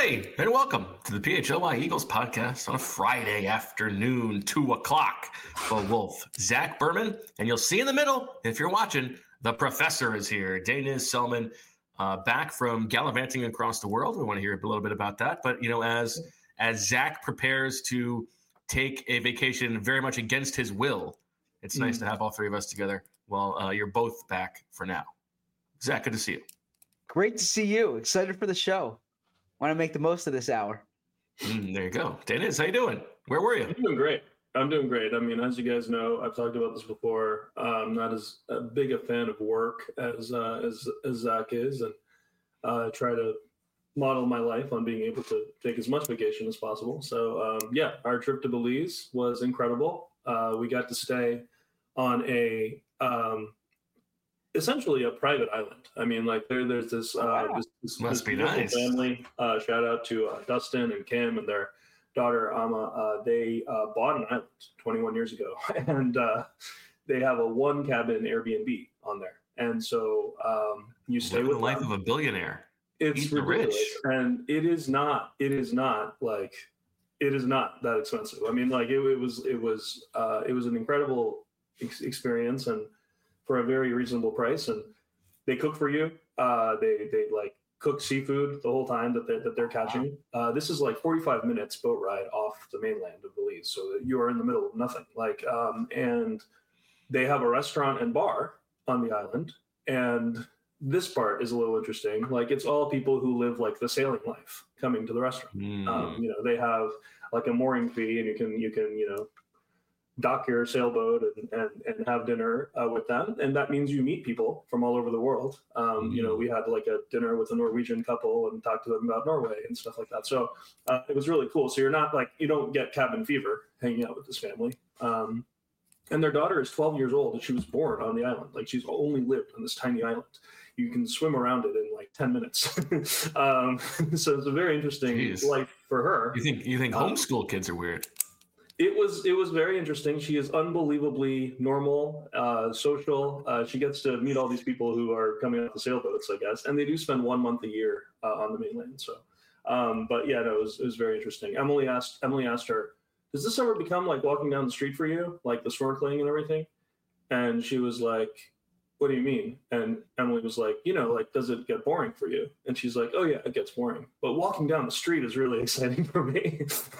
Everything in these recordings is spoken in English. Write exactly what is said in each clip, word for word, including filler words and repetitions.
everybody, and welcome to the P H L Y Eagles podcast on a Friday afternoon, two o'clock. The Wolf, Zach Berman, and you'll see in the middle, if you're watching, the professor is here. Daniz Selman, uh, back from gallivanting across the world. We want to hear a little bit about that. But, you know, as as Zach prepares to take a vacation very much against his will, it's mm. nice to have all three of us together while uh, you're both back for now. Zach, good to see you. Great to see you. Excited for the show. Want to make the most of this hour. Mm, there you go. Daniz, how you doing? Where were you? I'm doing great. I'm doing great. I mean, as you guys know, I've talked about this before. I'm not as uh, big a fan of work as uh, as, as Zach is, and uh, try to model my life on being able to take as much vacation as possible. So, um, yeah, our trip to Belize was incredible. Uh, we got to stay on a um, essentially a private island. I mean, like there, there's this, uh, wow. this, this, Must this be nice. family. Uh, shout out to uh, Dustin and Kim and their daughter Ama. Uh, they uh, bought an island twenty-one years ago, and uh, they have a one cabin Airbnb on there. And so um, you stay Living with the life them. of a billionaire. It's Eat the ridiculous, rich. and it is not. It is not like it is not that expensive. I mean, like it, it was. It was. Uh, it was an incredible ex- experience, and for a very reasonable price. And they cook for you. Uh, they they like cook seafood the whole time that they're, that they're catching. Uh, this is like forty-five minutes boat ride off the mainland of Belize, so that you are in the middle of nothing. Like, um, and they have a restaurant and bar on the island, and this part is a little interesting. Like, it's all people who live like the sailing life coming to the restaurant. Mm. Um, you know, they have like a mooring fee, and you can you can you know dock your sailboat and and, and have dinner uh, with them, and that means you meet people from all over the world. Um, Mm. You know, we had like a dinner with a Norwegian couple and talked to them about Norway and stuff like that. So uh, it was really cool. So you're not like you don't get cabin fever hanging out with this family. Um, and their daughter is twelve years old, and she was born on the island. Like, she's only lived on this tiny island. You can swim around it in like ten minutes. um, so it's a very interesting Jeez. life for her. You think you think Um, homeschool kids are weird? It was it was very interesting. She is unbelievably normal, uh, social. Uh, she gets to meet all these people who are coming off the sailboats, I guess, and they do spend one month a year uh, on the mainland. So, um, but yeah, no, it was, it was very interesting. Emily asked Emily asked her, "Does this ever become like walking down the street for you, like the snorkeling and everything?" And she was like, "What do you mean?" And Emily was like, "You know, like, does it get boring for you?" And she's like, "Oh yeah, it gets boring, but walking down the street is really exciting for me."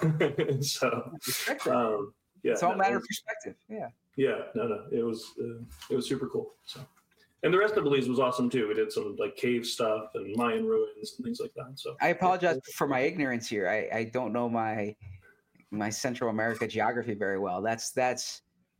so, um, yeah, It's all a no, matter it of was- perspective. Yeah. yeah, no, no, it was uh, it was super cool. So, and the rest of Belize was awesome too. We did some like cave stuff and Mayan ruins and things like that. So I apologize for my ignorance here. I, I don't know my my Central America geography very well. That's that's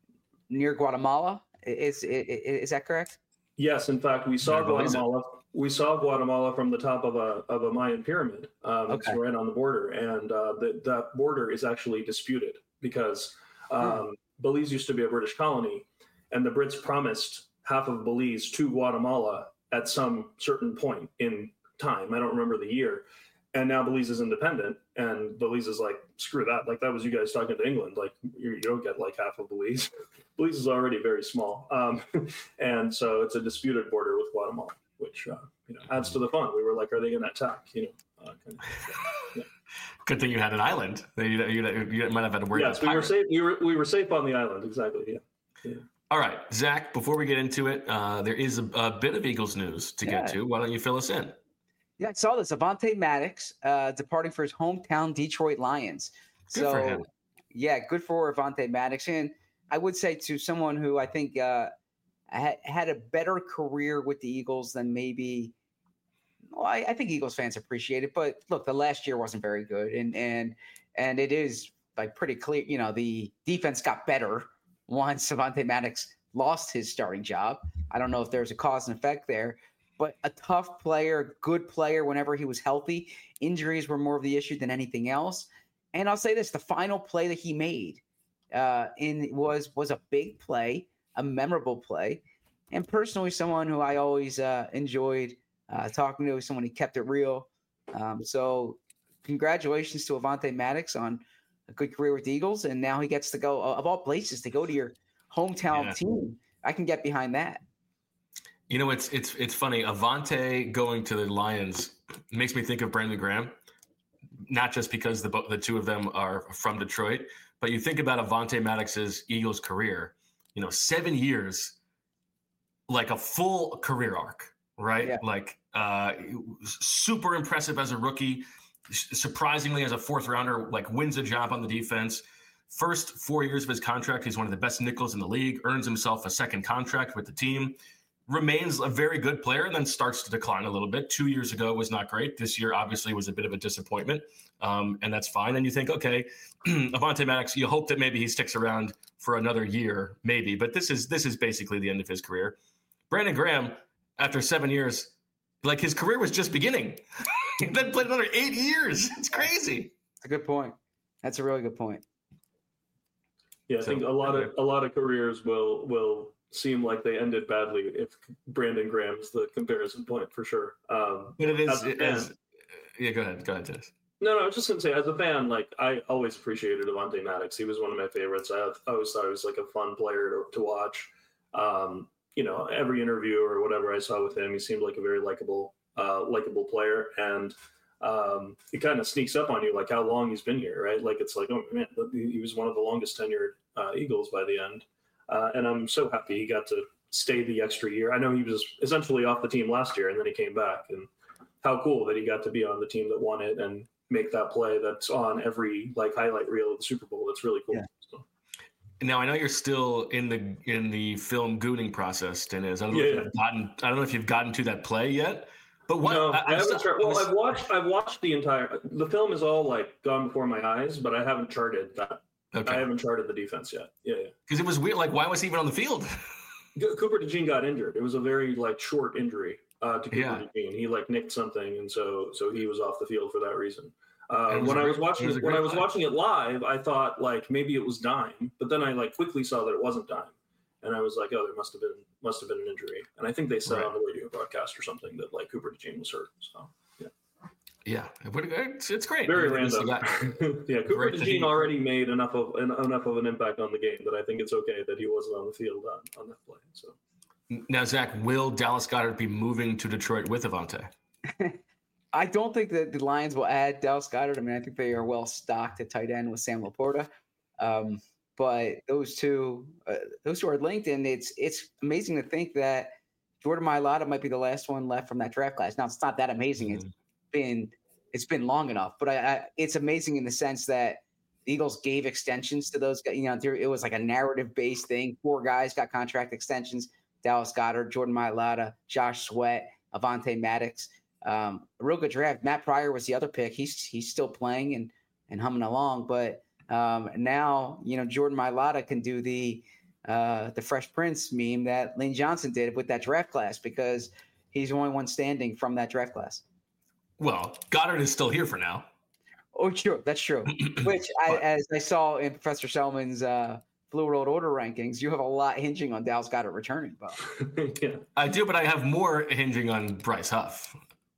near Guatemala. Is is, is that correct? Yes, in fact, we saw Yeah, Belize. Guatemala. We saw Guatemala from the top of a of a Mayan pyramid. Um, Okay. It's right on the border, and uh, the, that border is actually disputed because um, Hmm. Belize used to be a British colony, and the Brits promised half of Belize to Guatemala at some certain point in time. I don't remember the year. And now Belize is independent, and Belize is like, screw that. Like, that was you guys talking to England. Like, you, you don't get like half of Belize. Belize is already very small. Um, and so it's a disputed border with Guatemala, which, uh, you know, adds to the fun. We were like, are they going to attack? You know, uh, kind of, yeah. Good thing you had an island. You, you, you might have had to worry Yes, about we were pirates. safe. We were, we were safe on the island. Exactly. Yeah. yeah. All right, Zach, before we get into it, uh, there is a, a bit of Eagles news to Yeah. get to. Why don't you fill us in? Yeah, I saw this. Avonte Maddox uh, departing for his hometown Detroit Lions. Good so, for him. yeah, good for Avonte Maddox. And I would say to someone who I think uh, had, had a better career with the Eagles than maybe well, I, I think Eagles fans appreciate it. But look, the last year wasn't very good. And and and it is like pretty clear, you know, the defense got better once Avonte Maddox lost his starting job. I don't know if there's a cause and effect there. But a tough player, good player whenever he was healthy. Injuries were more of the issue than anything else. And I'll say this, the final play that he made uh, in was was a big play, a memorable play. And personally, someone who I always uh, enjoyed uh, talking to, someone who kept it real. Um, so congratulations to Avonte Maddox on a good career with the Eagles. And now he gets to go, of all places, to go to your hometown Yeah. team. I can get behind that. You know, it's it's it's funny. Avonte going to the Lions makes me think of Brandon Graham. not just because the the two of them are from Detroit, but you think about Avonte Maddox's Eagles career, you know, seven years, like a full career arc, right? Yeah. Like uh, super impressive as a rookie, surprisingly as a fourth rounder, like wins a job on the defense. First four years of his contract, he's one of the best nickels in the league, earns himself a second contract with the team, remains a very good player, and then starts to decline a little bit. Two years ago was not great. This year, obviously, was a bit of a disappointment, um, and that's fine. And you think, okay, Avonte Maddox, you hope that maybe he sticks around for another year, maybe. But this is this is basically the end of his career. Brandon Graham, after seven years, like his career was just beginning. He then played another eight years. It's crazy. That's a good point. That's a really good point. Yeah, I So, think a lot anyway. of a lot of careers will will seem like they ended badly if Brandon Graham's the comparison point for sure. Um, But it is, as a it fan- is yeah, go ahead. Go ahead, Dennis. No, no, I was just gonna say, as a fan, like I always appreciated Avonte Maddox. He was one of my favorites. I, I always thought he was like a fun player to, to watch. Um, you know, every interview or whatever I saw with him, he seemed like a very likable, uh, likable player, and um, it kind of sneaks up on you, like how long he's been here, right? Like it's like, oh man, he was one of the longest tenured uh, Eagles by the end, uh, and I'm so happy he got to stay the extra year. I know he was essentially off the team last year, and then he came back, and how cool that he got to be on the team that won it and make that play that's on every like highlight reel of the Super Bowl. That's really cool. Yeah. So, Now I know you're still in the in the film gooning process, Dennis. I don't know Yeah, if you've gotten I don't know if you've gotten to that play yet. But what no, I, I'm haven't. still- Char- I well, was- I've watched. I've watched the entire. The film is all like gone before my eyes, but I haven't charted that. I okay, haven't charted the defense yet. Yeah, yeah. because it was weird. Like, why was he even on the field? G- Cooper DeJean got injured. It was a very like short injury uh, to Cooper Yeah. DeJean. He like nicked something, and so so he was off the field for that reason. Uh, It was when a I was great- watching it was a when great I was play. watching it live, I thought like maybe it was dime, but then I like quickly saw that it wasn't dime, and I was like, oh, there must have been must have been an injury. And I think they said Right. on the radio broadcast or something that like Cooper DeJean was hurt. So yeah, Yeah, it would- it's, it's great. very It was the random. guy- yeah, Cooper Great that DeJean he- already made enough of en- enough of an impact on the game that I think it's okay that he wasn't on the field on, on that play. So. Now, Zach, will Dallas Goedert be moving to Detroit with Avonte? I don't think that the Lions will add Dallas Goedert. I mean, I think they are well stocked at tight end with Sam Laporta. Um, but those two, uh, those two are linked, and it's it's amazing to think that Jordan Mailata might be the last one left from that draft class. Now, it's not that amazing. It's been it's been long enough, but I, I, it's amazing in the sense that the Eagles gave extensions to those guys. You know, there, it was like a narrative based thing. Four guys got contract extensions: Dallas Goedert, Jordan Mailata, Josh Sweat, Avonte Maddox. Um, a real good draft. Matt Pryor was the other pick. He's he's still playing and and humming along, but um, now you know Jordan Mailata can do the uh, the Fresh Prince meme that Lane Johnson did with that draft class because he's the only one standing from that draft class. Well, Goddard is still here for now. Oh, true. That's true. Which, I, as I saw in Professor Selman's uh, Blue World Order rankings, you have a lot hinging on Dallas Goedert returning. But yeah. I do, but I have more hinging on Bryce Huff.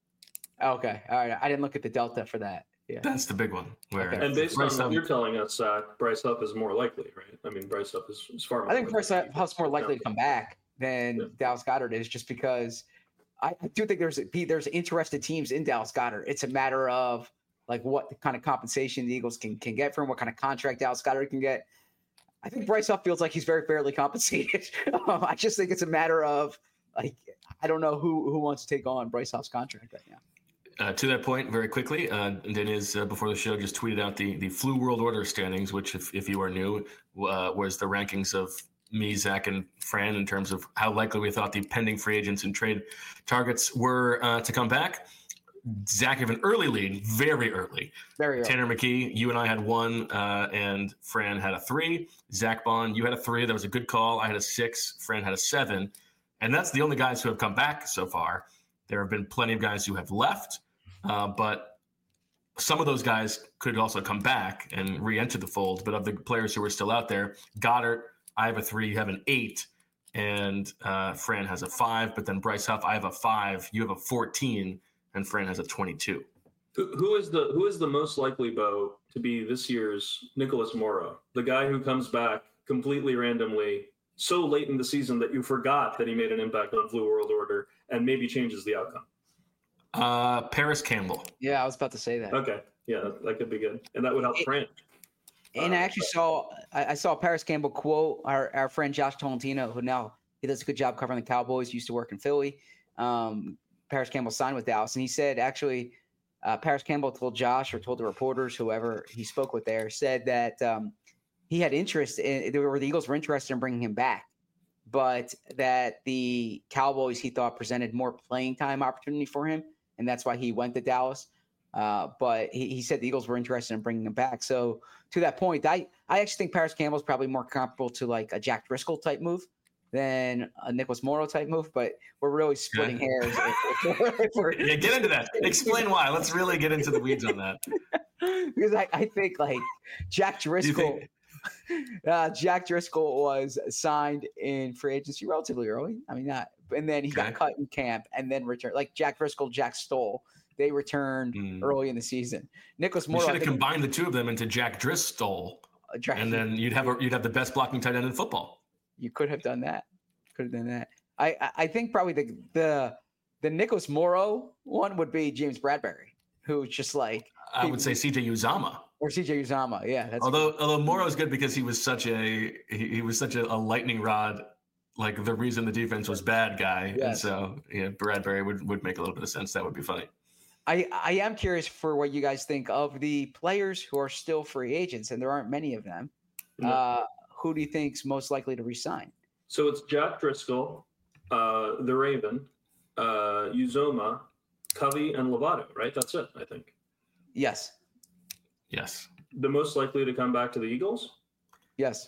okay, all right. I didn't look at the delta for that. Yeah. That's the big one. Where Okay. And based on Bryce what Huff- you're telling us, Zach, Bryce Huff is more likely, right? I mean, Bryce Huff is, is far more I think likely. Bryce Huff's more likely to come back than Yeah. Dallas Goedert is, just because I I do think there's be there's interested teams in Dallas Goedert. It's a matter of like what kind of compensation the Eagles can can get for him, what kind of contract Dallas Goedert can get. I think Bryce Huff feels like he's very fairly compensated. um, I just think it's a matter of like I don't know who who wants to take on Bryce Huff's contract right now. Uh, to that point, very quickly, uh, Dennis, uh, before the show, just tweeted out the the Flu World Order standings, which, if, if you are new, uh, was the rankings of me, Zach, and Fran in terms of how likely we thought the pending free agents and trade targets were uh, to come back. Zach have an early lead, very early. Very early. Tanner McKee, you and I had one, uh, and Fran had a three. Zach Bond, you had a three. That was a good call. I had a six. Fran had a seven. And that's the only guys who have come back so far. There have been plenty of guys who have left, uh, but some of those guys could also come back and re-enter the fold. But of the players who are still out there, Goddard, I have a three, you have an eight, and uh, Fran has a five. But then Bryce Huff, I have a five, you have a fourteen, and Fran has a twenty-two. Who, who is the who is the most likely, Bo, to be this year's Nicholas Morrow, the guy who comes back completely randomly, so late in the season that you forgot that he made an impact on Flu World Order and maybe changes the outcome? Uh, Paris Campbell. Yeah, I was about to say that. Okay, yeah, that, that could be good, and that would help Fran. And uh, I actually saw I, I saw Paris Campbell quote our, our friend Josh Tolentino, who now he does a good job covering the Cowboys. Used to work in Philly. Um, Paris Campbell signed with Dallas, and he said actually uh, Paris Campbell told Josh or told the reporters, whoever he spoke with there, said that um, he had interest in – or the Eagles were interested in bringing him back, but that the Cowboys, he thought, presented more playing time opportunity for him, and that's why he went to Dallas. Uh, but he, he said the Eagles were interested in bringing him back. So to that point, I, I actually think Paris Campbell is probably more comparable to like a Jack Driscoll type move than a Nicholas Morrow type move, but we're really splitting yeah. hairs. If, if, if we're, yeah, get into that. Explain why. Let's really get into the weeds on that. Because I, I think like Jack Driscoll, uh, Jack Driscoll was signed in free agency relatively early. I mean, not, and then he okay. got cut in camp and then returned. Like Jack Driscoll, Jack Stoll, they returned mm. early in the season. Nicholas Morrow. You should have combined the two of them into Jack Driscoll, uh, Jack, and then you'd have a, you'd have the best blocking tight end in football. You could have done that. Could have done that. I, I think probably the the the Nicholas Morrow one would be James Bradbury, who's just like I would say C J Uzomah or C J Uzomah. Yeah, that's although good. although Morrow is good because he was such a he, he was such a, a lightning rod, like the reason the defense was bad guy, yes. and so yeah, Bradbury would, would make a little bit of sense. That would be funny. I I am curious for what you guys think of the players who are still free agents, and there aren't many of them. Mm-hmm. Uh, who do you think's most likely to resign? So it's Jack Driscoll, uh, the Raven, uh, Uzomah, Covey, and Lovato, right? That's it, I think. Yes. Yes. The most likely to come back to the Eagles? Yes.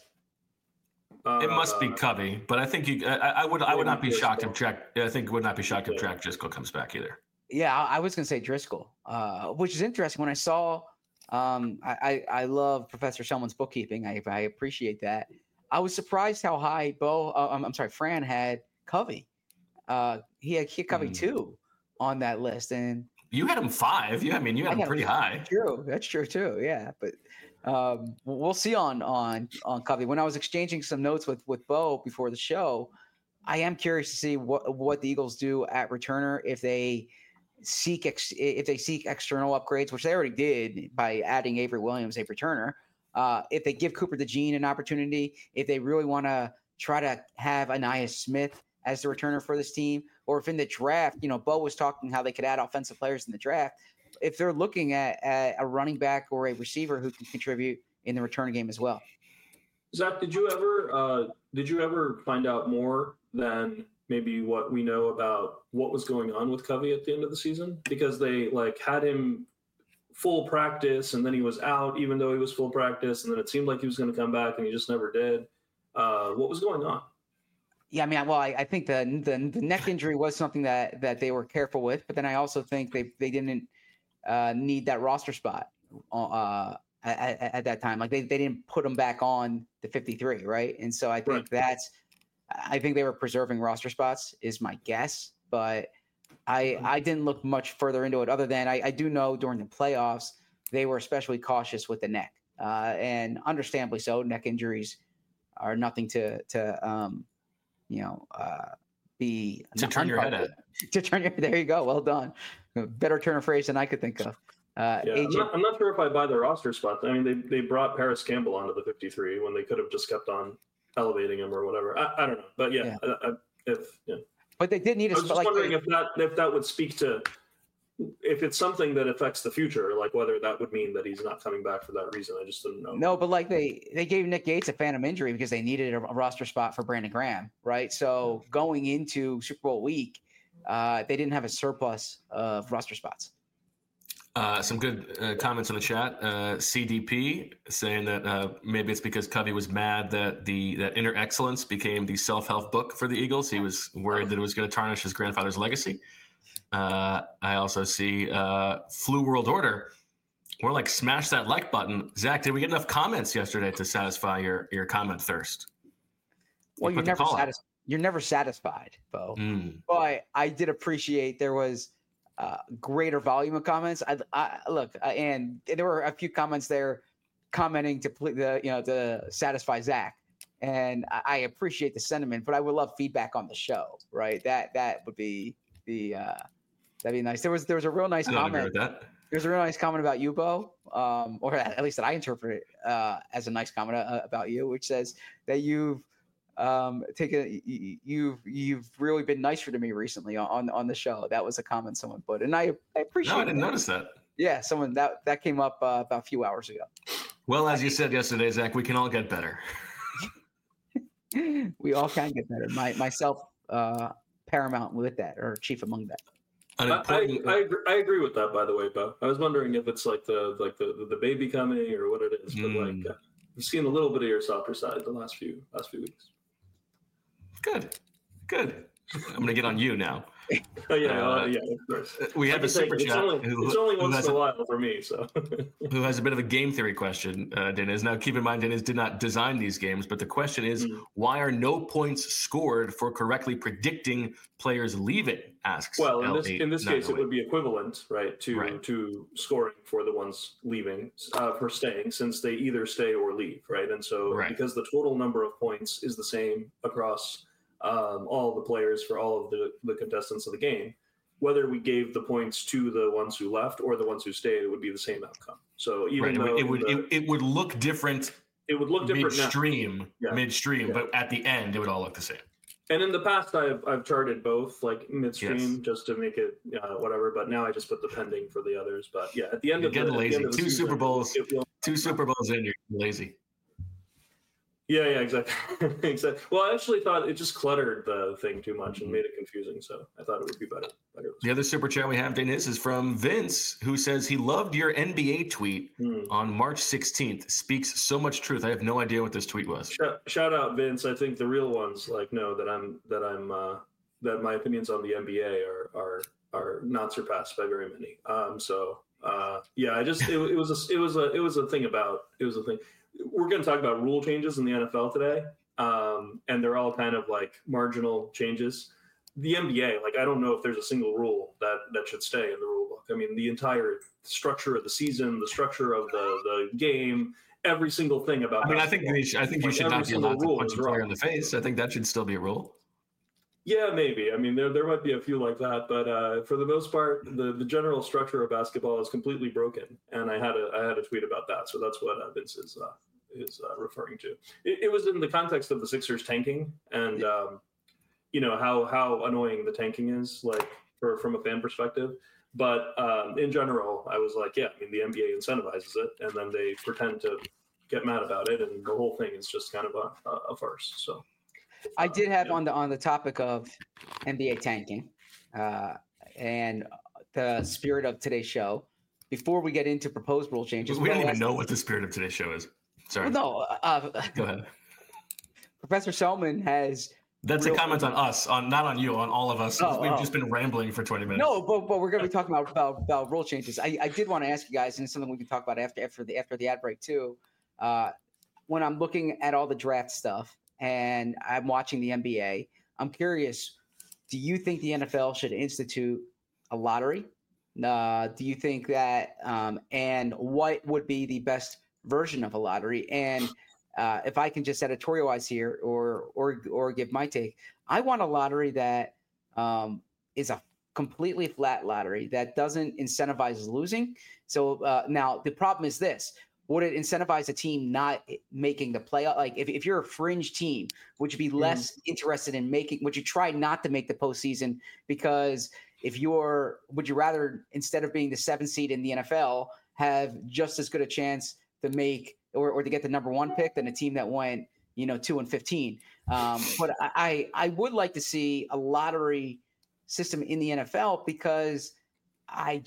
Uh, it must be Covey, but I think you. I, I would. I would not be shocked if Jack. I think would not be shocked if Jack Driscoll comes back either. Yeah, I was going to say Driscoll, uh, which is interesting. When I saw, um, I, I I love Professor Selman's bookkeeping. I I appreciate that. I was surprised how high Bo. Uh, I'm, I'm sorry, Fran had Covey. Uh, he had, he had Covey mm. two on that list, and you had him five. You, I mean, you had, had him pretty him, high. True, that's true too. Yeah, but um, we'll see on on on Covey. When I was exchanging some notes with with Bo before the show, I am curious to see what what the Eagles do at returner if they seek ex, if they seek external upgrades, which they already did by adding Avery Williams, a returner. Uh, if they give Cooper DeJean an opportunity, if they really want to try to have Aniyah Smith as the returner for this team, or if in the draft, you know, Bo was talking how they could add offensive players in the draft. If they're looking at, at a running back or a receiver who can contribute in the return game as well. Zach, did you ever uh, did you ever find out more than maybe what we know about what was going on with Covey at the end of the season? Because they like had him full practice and then he was out even though he was full practice, and then it seemed like he was going to come back and he just never did. Uh, what was going on? Yeah, I mean, well, I, I think the, the the neck injury was something that that they were careful with, but then I also think they they didn't uh, need that roster spot uh, at, at that time. Like they, they didn't put him back on the fifty-three, right? And so I think right. that's I think they were preserving roster spots is my guess, but I I didn't look much further into it other than I, I do know during the playoffs they were especially cautious with the neck, uh, and understandably so. Neck injuries are nothing to to um, you know uh, be to turn your head at. To turn your there you go. Well done. Better turn of phrase than I could think of. Uh, yeah, I'm not, I'm not sure if I buy the roster spot. I mean, they they brought Paris Campbell onto the fifty-three when they could have just kept on elevating him or whatever. I, I don't know, but yeah, yeah. I, I, if yeah. But they did need a I was just like wondering they, if that if that would speak to if it's something that affects the future, like whether that would mean that he's not coming back for that reason. I just didn't know. No, but like they they gave Nick Gates a phantom injury because they needed a, a roster spot for Brandon Graham, right? So going into Super Bowl week, uh, they didn't have a surplus of roster spots. Uh, some good uh, comments in the chat. Uh, C D P saying that uh, maybe it's because Covey was mad that the that Inner Excellence became the self-help book for the Eagles. He was worried that it was going to tarnish his grandfather's legacy. Uh, I also see uh, Flu World Order. We're like, smash that like button. Zach, did we get enough comments yesterday to satisfy your, your comment thirst? Well, you you're never, satis- you're never satisfied, Bo. Mm. But I did appreciate there was uh, greater volume of comments. I, I look, uh, and there were a few comments there commenting to the you know to satisfy Zach, and I, I appreciate the sentiment. But I would love feedback on the show, right? That that would be the uh, that'd be nice. There was there was a real nice I don't comment. agree with that. There's a really nice comment about you, Bo, um, or at least that I interpret it uh, as a nice comment uh, about you, which says that you've um, taken, you've you've really been nicer to me recently on on the show. That was a comment someone put, and I, I appreciate. No, I didn't that. notice that. Yeah, someone that that came up uh, about a few hours ago. Well, as you said yesterday, Zach, we can all get better. We all can get better. My myself, uh, paramount with that, or chief among that. I, I, I, agree, I agree with that, by the way, Bo. I was wondering if it's like the like the, the baby coming or what it is, but mm. like uh, I've seen a little bit of your softer side the last few last few weeks. Good, good. I'm gonna get on you now. Oh yeah, uh, uh, yeah, of course. We have a super it's chat. Only, who, it's only once in a while for me, so. Who has a bit of a game theory question, uh, Dennis. Now, keep in mind, Dennis did not design these games, but the question is, mm. why are no points scored for correctly predicting players leaving? Asks. Well, in this in this case, it would be equivalent, right, to right. to scoring for the ones leaving, uh, for staying, since they either stay or leave, right? And so, right. because the total number of points is the same across. Um, all the players for all of the, the contestants of the game, whether we gave the points to the ones who left or the ones who stayed, it would be the same outcome. So even right. though it would, the, it, would it, it would look different. It would look different midstream, yeah. midstream, yeah. but at the end, it would all look the same. And in the past, I've I've charted both, like midstream, yes. just to make it uh, whatever. But now I just put the pending for the others. But yeah, at the end you're of getting the, lazy. At the end of the two season, Super Bowls, will, two Super Bowls in, you're lazy. Yeah, yeah, exactly. exactly. Well, I actually thought it just cluttered the thing too much and made it confusing. So I thought it would be better. better. The other super chat we have, Dennis, is from Vince, who says he loved your N B A tweet hmm. on March sixteenth. Speaks so much truth. I have no idea what this tweet was. Shout, shout out, Vince. I think the real ones like know that I'm that I'm uh, that my opinions on the N B A are are are not surpassed by very many. Um, so uh, yeah, I just it, it was a it was a it was a thing about it was a thing. We're going to talk about rule changes in the N F L today, um, and they're all kind of like marginal changes. The N B A, like I don't know if there's a single rule that, that should stay in the rule book. I mean, the entire structure of the season, the structure of the, the game, every single thing about. I mean, I think we should, I think like you should not be allowed to punch a player in the face. I think that should still be a rule. Yeah, maybe. I mean, there there might be a few like that, but uh, for the most part, the, the general structure of basketball is completely broken. And I had a I had a tweet about that, so that's what uh, Vince is uh, is uh, referring to. It, it was in the context of the Sixers tanking, and um, you know how how annoying the tanking is, like for from a fan perspective. But um, in general, I was like, yeah, I mean, the N B A incentivizes it, and then they pretend to get mad about it, and the whole thing is just kind of a, a, a farce. So. I did have on the on the topic of N B A tanking uh, and the spirit of today's show. Before we get into proposed rule changes, we don't even know what the spirit of today's show is. Sorry. Well, no. Uh, Go ahead. Professor Selman has. That's real- a comment on us, on not on you, on all of us. Oh, We've oh. just been rambling for twenty minutes. No, but, but we're going to be talking about, about about rule changes. I, I did want to ask you guys, and it's something we can talk about after after the after the ad break too. Uh, when I'm looking at all the draft stuff. And I'm watching the N B A. I'm curious, do you think the N F L should institute a lottery? Uh, do you think that um, – and what would be the best version of a lottery? And uh, if I can just editorialize here or or or give my take, I want a lottery that um, is a completely flat lottery that doesn't incentivize losing. So uh, now the problem is this. Would it incentivize a team not making the playoff? Like if, if you're a fringe team, would you be less mm. interested in making, would you try not to make the postseason? Because if you're, would you rather, instead of being the seventh seed in the N F L, have just as good a chance to make, or, or to get the number one pick than a team that went, you know, two and fifteen. Um, but I, I would like to see a lottery system in the N F L because I,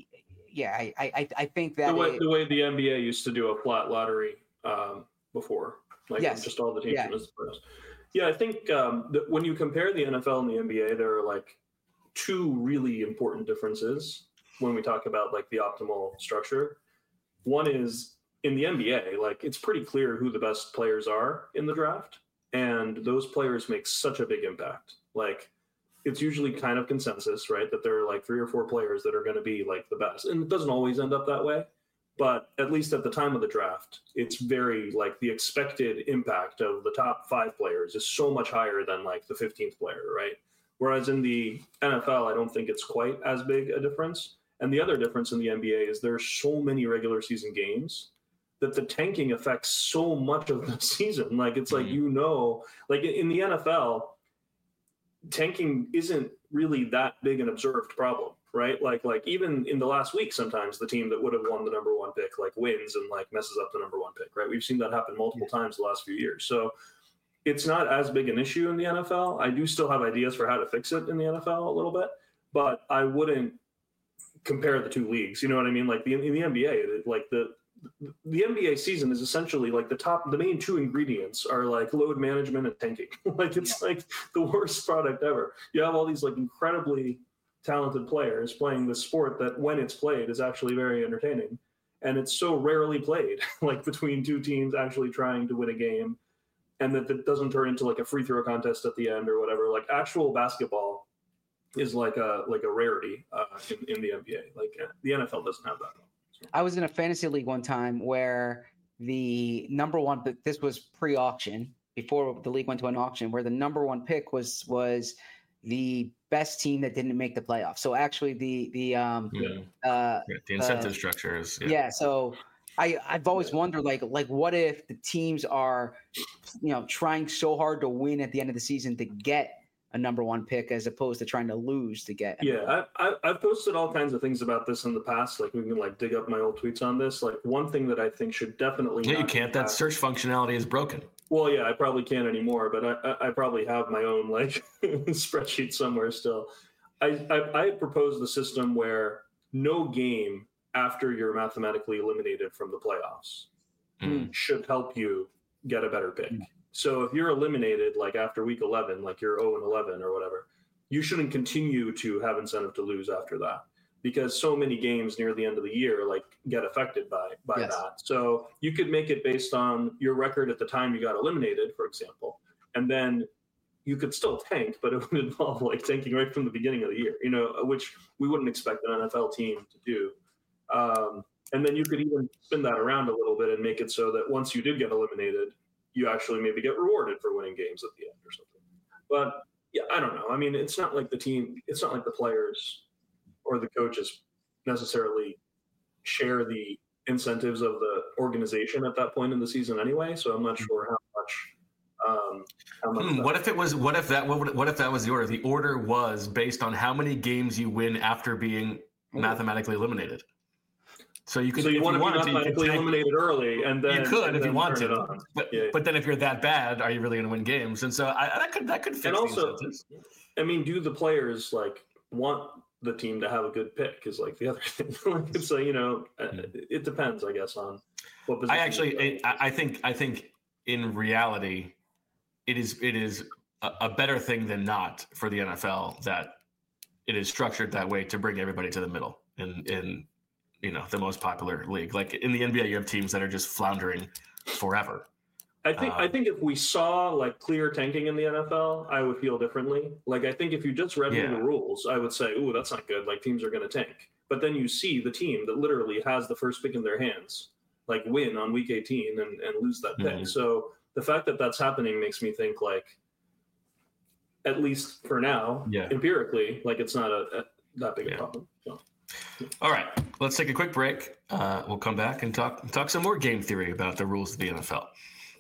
Yeah, I, I I think that the way, it, the way the N B A used to do a flat lottery um, before, like yes. just all the teams. Yeah, yeah I think um, that when you compare the N F L and the N B A, there are like two really important differences when we talk about like the optimal structure. One is in the N B A, like it's pretty clear who the best players are in the draft, and those players make such a big impact. Like. It's usually kind of consensus, right? That there are like three or four players that are going to be like the best. And it doesn't always end up that way. But at least at the time of the draft, it's very like the expected impact of the top five players is so much higher than like the fifteenth player, right? Whereas in the N F L, I don't think it's quite as big a difference. And the other difference in the N B A is there are so many regular season games that the tanking affects so much of the season. Like, it's like, you know, like in the N F L, tanking isn't really that big an observed problem, right? Like, like even in the last week, sometimes the team that would have won the number one pick, like wins and like messes up the number one pick, right? We've seen that happen multiple times the last few years. So it's not as big an issue in the N F L. I do still have ideas for how to fix it in the N F L a little bit, but I wouldn't compare the two leagues. You know what I mean? Like the, in the N B A, like the, the N B A season is essentially like the top, the main two ingredients are like load management and tanking. Like it's yeah. like the worst product ever. You have all these like incredibly talented players playing this sport that when it's played is actually very entertaining. And it's so rarely played, like between two teams actually trying to win a game, and that it doesn't turn into like a free throw contest at the end or whatever. Like actual basketball is like a, like a rarity uh, in, in the N B A. Like the N F L doesn't have that. I was in a fantasy league one time where the number one, but this was pre-auction before the league went to an auction, where the number one pick was was the best team that didn't make the playoffs. So actually, the the um yeah. uh, yeah, the incentive uh, structure is yeah. yeah. So I I've always wondered like like what if the teams are, you know, trying so hard to win at the end of the season to get a number one pick as opposed to trying to lose to get. Yeah, I, I, I've posted all kinds of things about this in the past. Like we can like dig up my old tweets on this. Like one thing that I think should definitely. Yeah, you can't. That search functionality is broken. Well, yeah, I probably can't anymore, but I, I probably have my own like spreadsheet somewhere still. I, I I proposed the system where no game after you're mathematically eliminated from the playoffs mm. should help you get a better pick. Mm. So if you're eliminated, like after week eleven, like you're oh and eleven or whatever, you shouldn't continue to have incentive to lose after that, because so many games near the end of the year, like get affected by, by yes. that. So you could make it based on your record at the time you got eliminated, for example, and then you could still tank, but it would involve like tanking right from the beginning of the year, you know, which we wouldn't expect an N F L team to do. Um, and then you could even spin that around a little bit and make it so that once you did get eliminated, you actually maybe get rewarded for winning games at the end or something. But yeah, I don't know. I mean, it's not like the team, it's not like the players or the coaches necessarily share the incentives of the organization at that point in the season anyway. So I'm not sure how much. Um, how much hmm, what if it was? What if that? What, what if that was the order? The order was based on how many games you win after being oh. mathematically eliminated. So you could, so you if want you to wanted be mathematically to, eliminated early, and then you could and if then you wanted to. But, yeah. but then if you're that bad, are you really going to win games? And so I, that could that could fix and also, the incentives. I mean, do the players like want the team to have a good pick? Is like the other thing. Like it's like, you know, mm-hmm. it depends, I guess, on what position. I actually, I, I think, I think in reality, it is it is a, a better thing than not for the N F L that it is structured that way to bring everybody to the middle in in. you know, the most popular league. Like in the N B A, you have teams that are just floundering forever. I think um, I think if we saw like clear tanking in the N F L, I would feel differently. Like I think if you just read yeah. me the rules, I would say, "Ooh, that's not good." Like teams are going to tank. But then you see the team that literally has the first pick in their hands, like win on week eighteen and, and lose that pick. Mm-hmm. So the fact that that's happening makes me think like, at least for now, yeah. empirically, like it's not a, a that big yeah. a problem. So. All right, let's take a quick break. Uh, we'll come back and talk talk some more game theory about the rules of the N F L.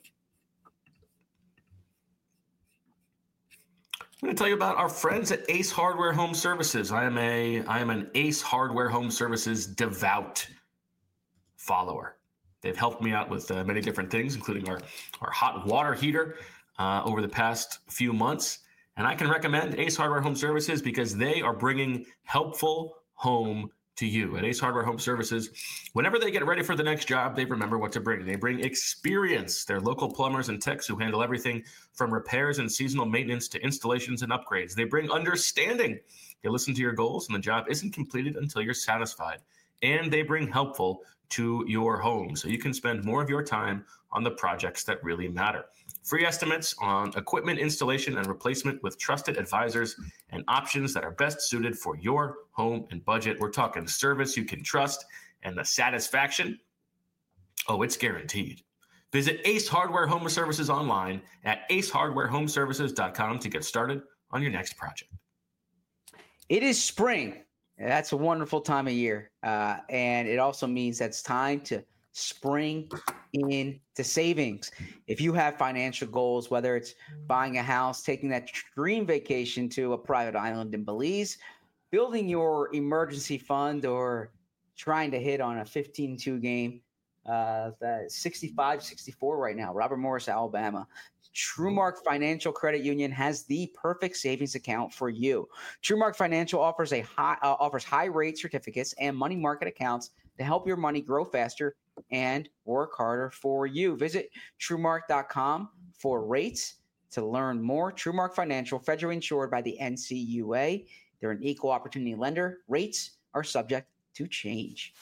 I'm going to tell you about our friends at Ace Hardware Home Services. I am a I am an Ace Hardware Home Services devout follower. They've helped me out with uh, many different things, including our, our hot water heater uh, over the past few months. And I can recommend Ace Hardware Home Services because they are bringing helpful home to you. At Ace Hardware Home Services, whenever they get ready for the next job, they remember what to bring. They bring experience. They're local plumbers and techs who handle everything from repairs and seasonal maintenance to installations and upgrades. They bring understanding. They listen to your goals, and the job isn't completed until you're satisfied. And they bring helpful to your home, so you can spend more of your time on the projects that really matter. Free estimates on equipment installation and replacement with trusted advisors and options that are best suited for your home and budget. We're talking service you can trust and the satisfaction. Oh, it's guaranteed. Visit Ace Hardware Home Services online at ace hardware home services dot com to get started on your next project. It is spring, That's a wonderful time of year. Uh, and it also means that it's time to spring into savings. If you have financial goals, whether it's buying a house, taking that dream vacation to a private island in Belize, building your emergency fund, or trying to hit on a fifteen two game, uh, sixty-five sixty-four right now, Robert Morris, Alabama. TrueMark Financial Credit Union has the perfect savings account for you. TrueMark Financial offers a high uh, offers high rate certificates and money market accounts to help your money grow faster and work harder for you. Visit TrueMark dot com for rates to learn more. TrueMark Financial, federally insured by the N C U A. They're an equal opportunity lender. Rates are subject to change.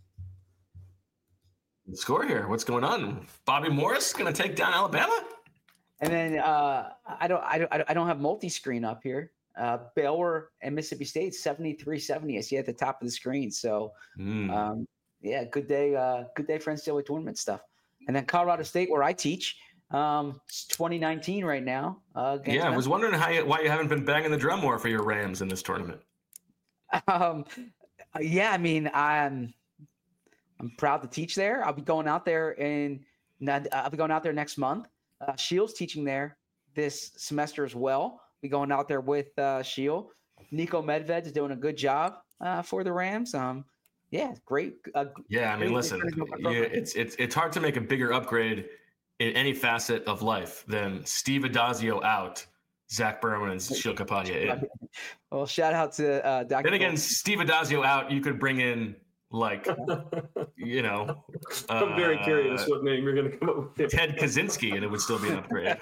The score here. What's going on? Bobby Morris going to take down Alabama? And then uh, I don't, I don't, I don't have multi-screen up here. Uh, Baylor and Mississippi State seventy-three seventy. I see at the top of the screen. So, mm. um, yeah, good day, uh, good day for N C double A tournament stuff. And then Colorado State, where I teach, um, it's twenty nineteen right now. Uh, yeah, I was wondering how you, why you haven't been banging the drum more for your Rams in this tournament. Um, yeah, I mean, I'm, I'm proud to teach there. I'll be going out there in, I'll be going out there next month. Uh, Shields teaching there this semester as well. Be going out there with uh, Shield. Nico Medved is doing a good job uh, for the Rams. Um, yeah, great. Uh, yeah, I mean, great listen, you, it's it's it's hard to make a bigger upgrade in any facet of life than Steve Adazio out, Zach Berman, and Sheil Kapadia in. Well, shout out to uh, Doctor Then again, Cole. Steve Adazio out, you could bring in. Like, you know, I'm uh, very curious what name you're going to come up with. Ted Kaczynski, and it would still be an upgrade.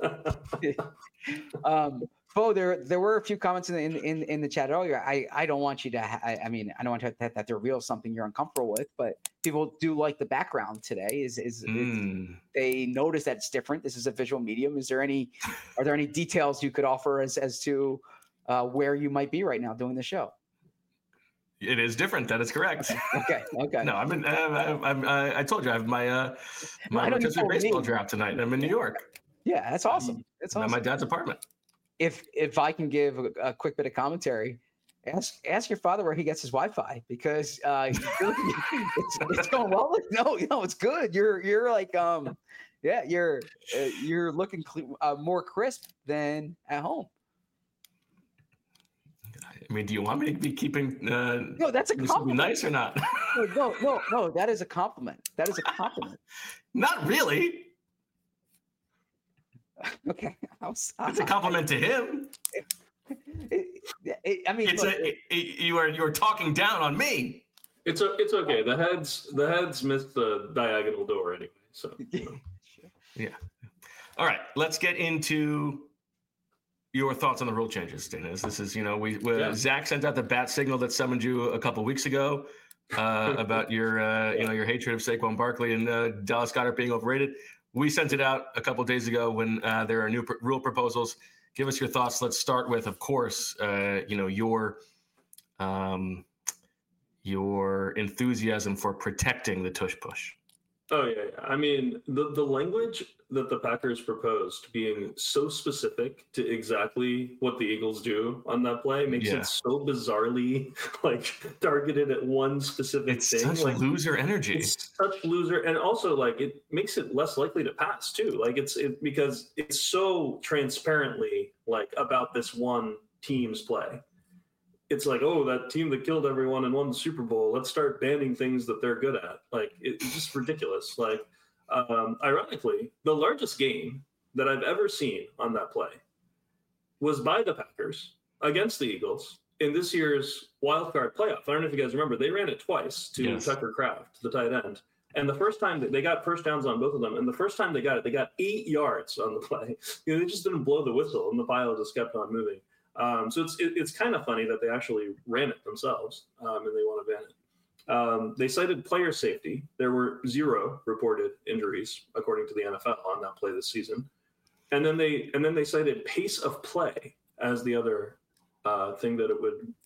um, Bo, there there were a few comments in the, in, in in the chat earlier. I, I don't want you to. Ha- I, I mean, I don't want to have, have to reveal something you're uncomfortable with, but people do like the background today. Is is, mm. is they notice that it's different? This is a visual medium. Is there any? Are there any details you could offer as as to uh, where you might be right now doing the show? It is different. That is correct. Okay. Okay. No, I'm in. Uh, I'm. Uh, I told you I have my uh, my rotisserie baseball me. draft tonight. I'm in New York. Yeah, that's awesome. That's awesome. I'm at my dad's apartment. If if I can give a, a quick bit of commentary, ask ask your father where he gets his Wi-Fi because uh, it's, it's going well. No, no, it's good. You're you're like um, yeah, you're uh, you're looking cl- uh, more crisp than at home. I mean, do you want me to be keeping? Uh, no, that's a compliment. Nice or not? no, no, no, no. That is a compliment. That is a compliment. Not really. Okay, it's a compliment to him. It, it, it, I mean, it's look, a, it, you are you are talking down on me. It's a, it's okay. The heads the heads missed the diagonal door anyway. So you know. Yeah. All right, let's get into your thoughts on the rule changes, Dennis. This is, you know, we, we yeah. Zach sent out the bat signal that summoned you a couple weeks ago uh, about your, uh, you know, your hatred of Saquon Barkley and uh, Dallas Goedert being overrated. We sent it out a couple days ago when uh, there are new pr- rule proposals. Give us your thoughts. Let's start with, of course, uh, you know, your um, your enthusiasm for protecting the tush push. Oh yeah, yeah. I mean, the the language that the Packers proposed being so specific to exactly what the Eagles do on that play makes yeah. it so bizarrely like targeted at one specific it's thing. It's such like, loser energy. It's such loser, and also like it makes it less likely to pass too. Like it's it because it's so transparently like about this one team's play. It's like, oh, that team that killed everyone and won the Super Bowl, let's start banning things that they're good at. Like, it's just ridiculous. Like, um, ironically, the largest game that I've ever seen on that play was by the Packers against the Eagles in this year's wild card playoff. I don't know if you guys remember. They ran it twice to yes. Tucker Kraft, the tight end. And the first time that they got first downs on both of them, and the first time they got it, they got eight yards on the play. You know, they just didn't blow the whistle, and the pile just kept on moving. Um, so it's it, it's kind of funny that they actually ran it themselves, um, and they want to ban it. Um, they cited player safety. There were zero reported injuries according to the N F L on that play this season, and then they and then they cited pace of play as the other uh, thing that it would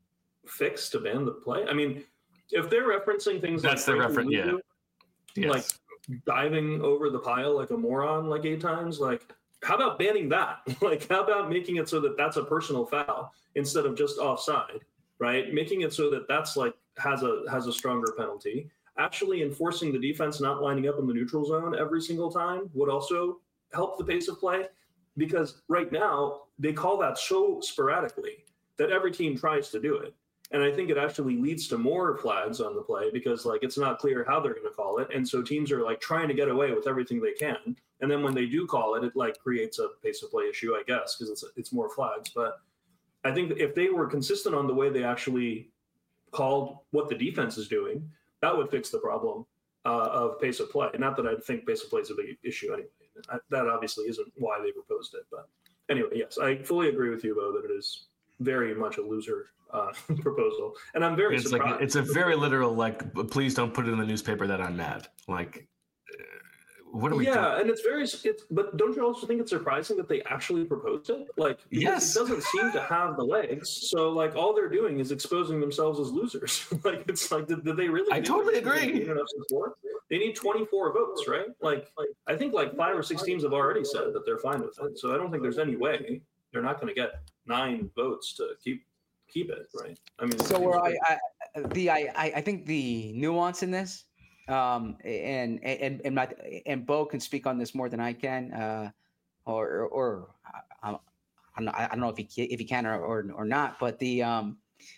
fix to ban the play. I mean, if they're referencing things that's like the reference, yeah, yes. like diving over the pile like a moron like eight times, like. How about banning that? Like, how about making it so that that's a personal foul instead of just offside, right? Making it so that that's like has a has a stronger penalty. Actually enforcing the defense not lining up in the neutral zone every single time would also help the pace of play, because right now they call that so sporadically that every team tries to do it. And I think it actually leads to more flags on the play because like it's not clear how they're going to call it. And so teams are like trying to get away with everything they can. And then when they do call it, it like creates a pace of play issue, I guess, because it's it's more flags. But I think if they were consistent on the way they actually called what the defense is doing, that would fix the problem uh, of pace of play. Not that I think pace of play is a big issue anyway. I, that obviously isn't why they proposed it. But anyway, yes, I fully agree with you, Bo, that it is very much a loser uh, proposal. And I'm very it's surprised. Like, it's a very literal, like, please don't put it in the newspaper that I'm mad. Like, what are we yeah, doing? and it's very, it's, but don't you also think it's surprising that they actually proposed it? Like, yes, it doesn't seem to have the legs. So, like, all they're doing is exposing themselves as losers. Like, it's like, did, did they really? I totally agree. They need twenty-four votes, right? Like, like, I think like five or six teams have already said that they're fine with it. So I don't think there's any way they're not going to get nine votes to keep keep it, right? I mean, so where I, I the I I think the nuance in this. Um, and, and, and my, and Bo can speak on this more than I can, uh, or, or, I, I'm not, I don't know if he, if he can or, or, or not, but the, um,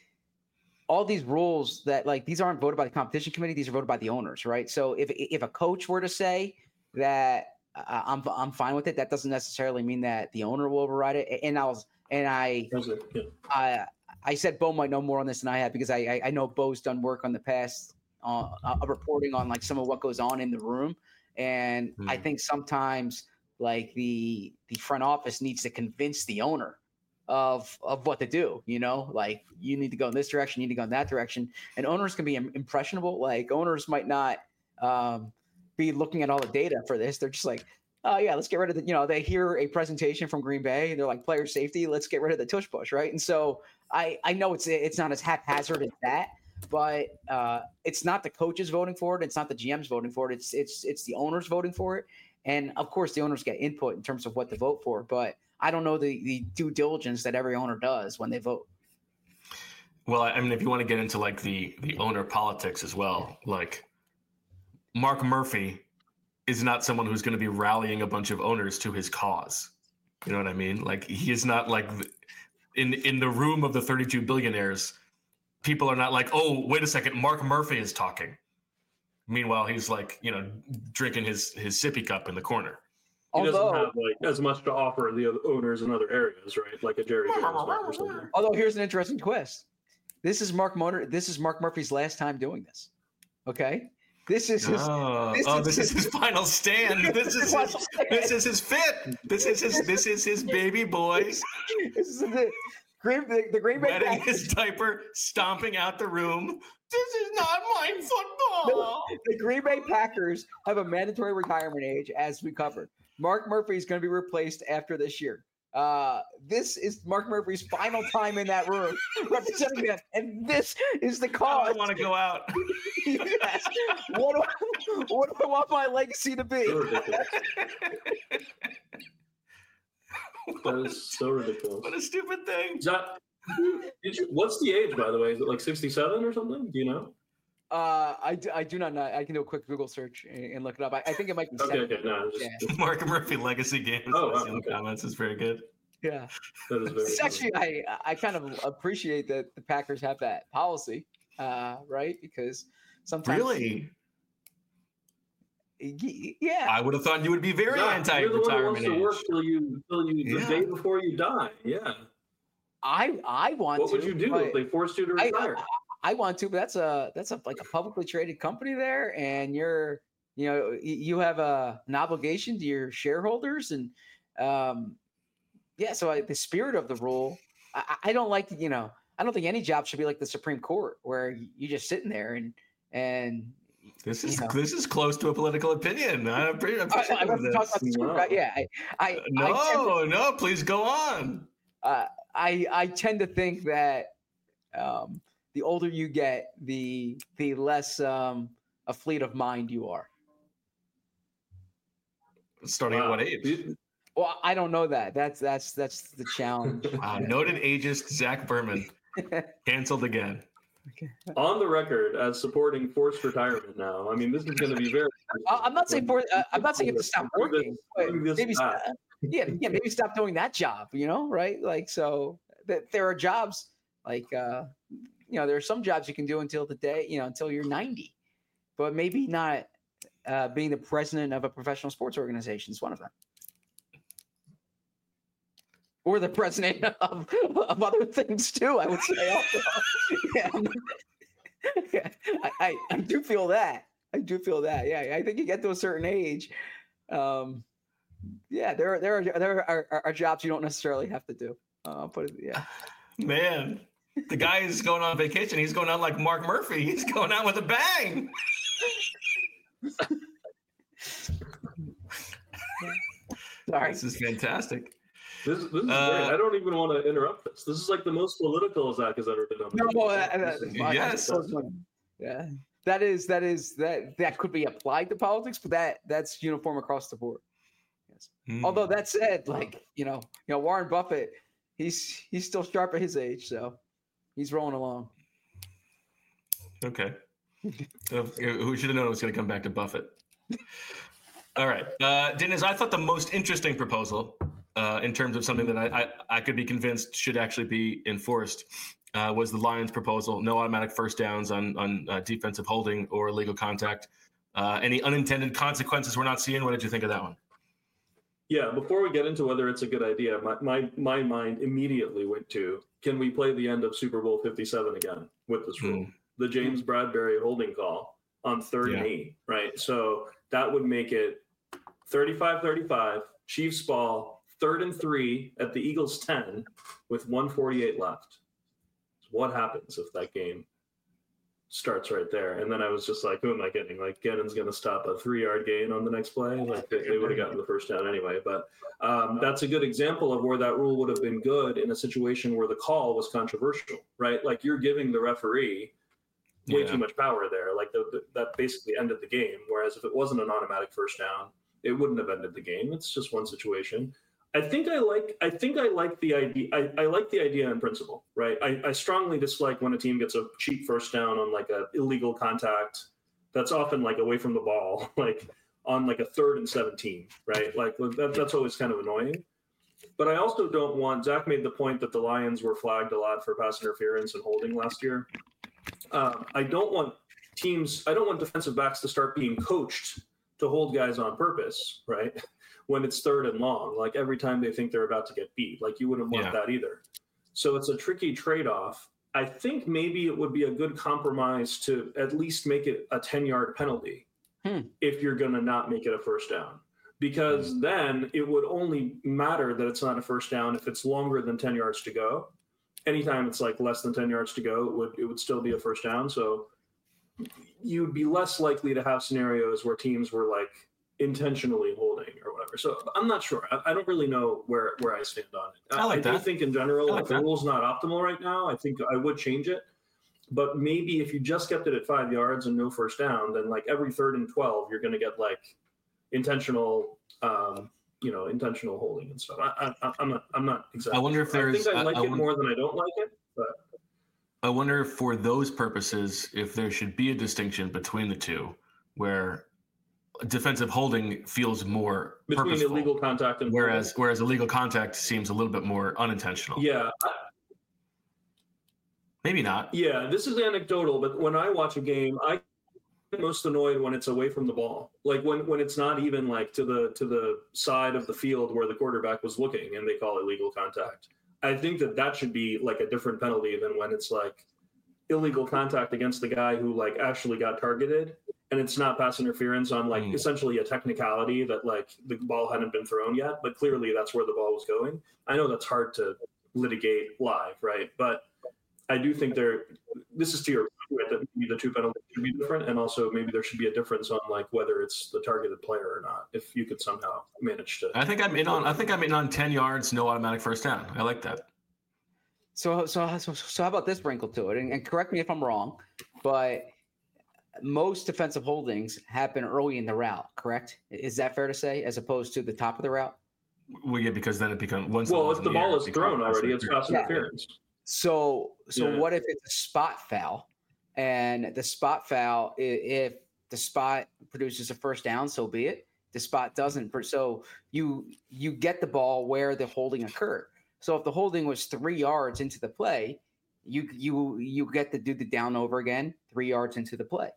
all these rules that like, these aren't voted by the competition committee. These are voted by the owners. Right. So if, if a coach were to say that uh, I'm, I'm fine with it, that doesn't necessarily mean that the owner will override it. And I was, and I, I, I said Bo might know more on this than I have, because I, I, I know Bo's done work on the past Uh, uh, reporting on like some of what goes on in the room, and mm. I think sometimes like the the front office needs to convince the owner of of what to do. You know, like you need to go in this direction, you need to go in that direction, and owners can be impressionable. Like owners might not um, be looking at all the data for this. They're just like, oh yeah, let's get rid of the. You know, they hear a presentation from Green Bay, and they're like, player safety, let's get rid of the tush push, right? And so I I know it's it's not as haphazard as that. But uh, it's not the coaches voting for it. It's not the G Ms voting for it. It's it's it's the owners voting for it. And of course, the owners get input in terms of what to vote for. But I don't know the, the due diligence that every owner does when they vote. Well, I mean, if you want to get into like the the owner politics as well, like Mark Murphy is not someone who's going to be rallying a bunch of owners to his cause. You know what I mean? Like he is not like in in the room of the thirty-two billionaires. People are not like, oh, wait a second, Mark Murphy is talking. Meanwhile, he's like, you know, drinking his his sippy cup in the corner. He although, doesn't have like as much to offer the owners in other areas, right? Like a Jerry Jones or something. Although here's an interesting twist. This is Mark Motor. This is Mark Murphy's last time doing this. Okay, this is his. Oh, this, oh, is, this is his final stand. This is his, this is his fit. This is his this is his baby boy. This is it. Green, the, the Green Bay wetting Packers. his diaper, stomping out the room. This is not my football. The, the Green Bay Packers have a mandatory retirement age, as we covered. Mark Murphy is going to be replaced after this year. Uh, this is Mark Murphy's final time in that room representing them, and this is the cause. I want to go out. Yes. What do I, what do I want my legacy to be? That is so ridiculous. What a stupid thing. Is that, did you, what's the age, by the way? Is it like sixty-seven or something? Do you know? Uh, I, do, I do not know. I can do a quick Google search and, and look it up. I, I think it might be. Okay, okay, no. Just, yeah. Mark Murphy legacy games. Oh, wow, in the okay. comments is very good. Yeah, that is very. It's actually, I I kind of appreciate that the Packers have that policy, uh, right? Because sometimes really. Yeah, I would have thought you would be very yeah, anti-retirement you're the one who wants age. to work till you, till you yeah. the day before you die. Yeah. I I want what to. What would you do if they forced you to retire? I, I, I want to, but that's a that's a like a publicly traded company there, and you're you know you have a an obligation to your shareholders, and um, yeah. So I, the spirit of the rule, I, I don't like you know I don't think any job should be like the Supreme Court where you're just sitting there and and. This is you know. this is close to a political opinion. I'm pretty. I'm I, I, this. Talk about this Wow. right? Yeah, I, I no, I to, no, please go on. Uh, I I tend to think that um, the older you get, the the less um, a fleet of mind you are. Starting wow. at what age? Well, I don't know that. That's that's that's the challenge. Wow, noted ageist Zach Berman Canceled again. On the record as supporting forced retirement now. I mean, this is going to be very. I'm not saying for. Uh, I'm not saying you have to stop working. But maybe stop, yeah, yeah, maybe stop doing that job. You know, right? Like, so that there are jobs like uh, you know, there are some jobs you can do until the day, you know, until you're ninety, but maybe not uh, being the president of a professional sports organization is one of them. Or the president of, of other things too, I would say. Also. yeah. yeah. I, I, I do feel that. I do feel that. Yeah, I think you get to a certain age. Um, yeah, there are there are there are, are, are jobs you don't necessarily have to do. Uh, but yeah, man, the guy is going on vacation. He's going out like Mark Murphy. He's going out with a bang. Sorry, this is fantastic. This, this is Uh, great. I don't even want to interrupt this. This is like the most political Zach has ever been on. No, uh, uh, yes. Yeah, that is that is that that could be applied to politics, but that that's uniform across the board. Yes. Mm. Although that said, like you know, you know, Warren Buffett, he's he's still sharp at his age, so he's rolling along. Okay. So, who should have known it was going to come back to Buffett? All right, uh, Dennis. I thought the most interesting proposal. Uh, in terms of something that I, I, I could be convinced should actually be enforced, uh, was the Lions' proposal: no automatic first downs on on uh, defensive holding or illegal contact. Uh, any unintended consequences we're not seeing? What did you think of that one? Yeah, before we get into whether it's a good idea, my my, my mind immediately went to: can we play the end of Super Bowl fifty-seven again with this rule? Mm. The James Bradbury holding call on third yeah. and eight, right? So that would make it thirty-five thirty-five, Chiefs ball. Third and three at the Eagles' ten with one forty-eight left. What happens if that game starts right there? And then I was just like, who am I kidding? Like, Gannon's going to stop a three-yard gain on the next play? Like, they, they would have gotten the first down anyway. But um, that's a good example of where that rule would have been good in a situation where the call was controversial, right? Like, you're giving the referee way yeah. too much power there. Like, the, the, that basically ended the game. Whereas if it wasn't an automatic first down, it wouldn't have ended the game. It's just one situation. I think I like. I think I like the idea. I, I like the idea in principle, right? I, I strongly dislike when a team gets a cheap first down on like a illegal contact. That's often like away from the ball, like on like a third and seventeen, right? Like that, that's always kind of annoying. But I also don't want. Zach made the point that the Lions were flagged a lot for pass interference and holding last year. Um, I don't want teams. I don't want defensive backs to start being coached to hold guys on purpose, right? When it's third and long, like every time they think they're about to get beat, like you wouldn't want yeah. that either. So it's a tricky trade-off. I think maybe it would be a good compromise to at least make it a ten-yard penalty hmm. if you're going to not make it a first down, because hmm. then it would only matter that it's not a first down if it's longer than ten yards to go. Anytime it's like less than ten yards to go, it would, it would still be a first down. So you'd be less likely to have scenarios where teams were like, intentionally holding or whatever. So I'm not sure. I, I don't really know where, where I stand on it. I, like I that. do think in general, like if the that. rule's not optimal right now, I think I would change it. But maybe if you just kept it at five yards and no first down, then like every third and twelve, you're going to get like intentional, um, you know, intentional holding and stuff. I, I, I'm not. I'm not exactly. I wonder if sure. there's. I think I like I, I it wonder, more than I don't like it. But I wonder if for those purposes, if there should be a distinction between the two, where defensive holding feels more between purposeful, illegal contact and whereas holding. whereas illegal contact seems a little bit more unintentional. Yeah. I, Maybe not. Yeah, this is anecdotal, but when I watch a game, I get most annoyed when it's away from the ball. Like when, when it's not even like to the to the side of the field where the quarterback was looking and they call illegal contact. I think that that should be like a different penalty than when it's like illegal contact against the guy who like actually got targeted. And it's not pass interference on like mm. essentially a technicality that like the ball hadn't been thrown yet, but clearly that's where the ball was going. I know that's hard to litigate live, right? But I do think there, this is to your point, that maybe the two penalties should be different. And also maybe there should be a difference on like whether it's the targeted player or not, if you could somehow manage to. I think I'm in on, I think I'm in on ten yards, no automatic first down. I like that. So, so, so, so how about this wrinkle to it? And, and correct me if I'm wrong, but most defensive holdings happen early in the route, correct? Is that fair to say, as opposed to the top of the route? Well, yeah, because then it becomes once. Well, the if the ball is thrown already, it's pass yeah. interference. So, so Yeah. what if it's a spot foul, and the spot foul, i- if the spot produces a first down, so be it. The spot doesn't. per- So you you get the ball where the holding occurred. So if the holding was three yards into the play, you you you get to do the down over again three yards into the play.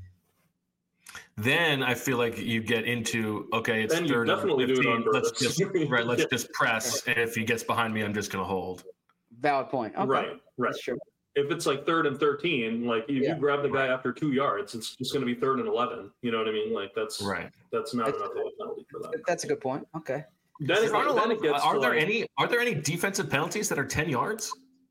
Then I feel like you get into, okay, it's Then you third and definitely do it on fifteen. Let's purpose. just right. Let's Yeah. just press, and if he gets behind me, I'm just going to hold. Valid point. Okay. Right, right. That's true. If it's like third and thirteen, like if Yeah. you grab the guy after two yards, it's just going to be third and eleven. You know what I mean? Like that's Right. that's not That's- enough of a penalty for that. That's a good point. Okay. Then it, Are, there a lot then of- it gets are to there like, any are there any defensive penalties that are ten yards?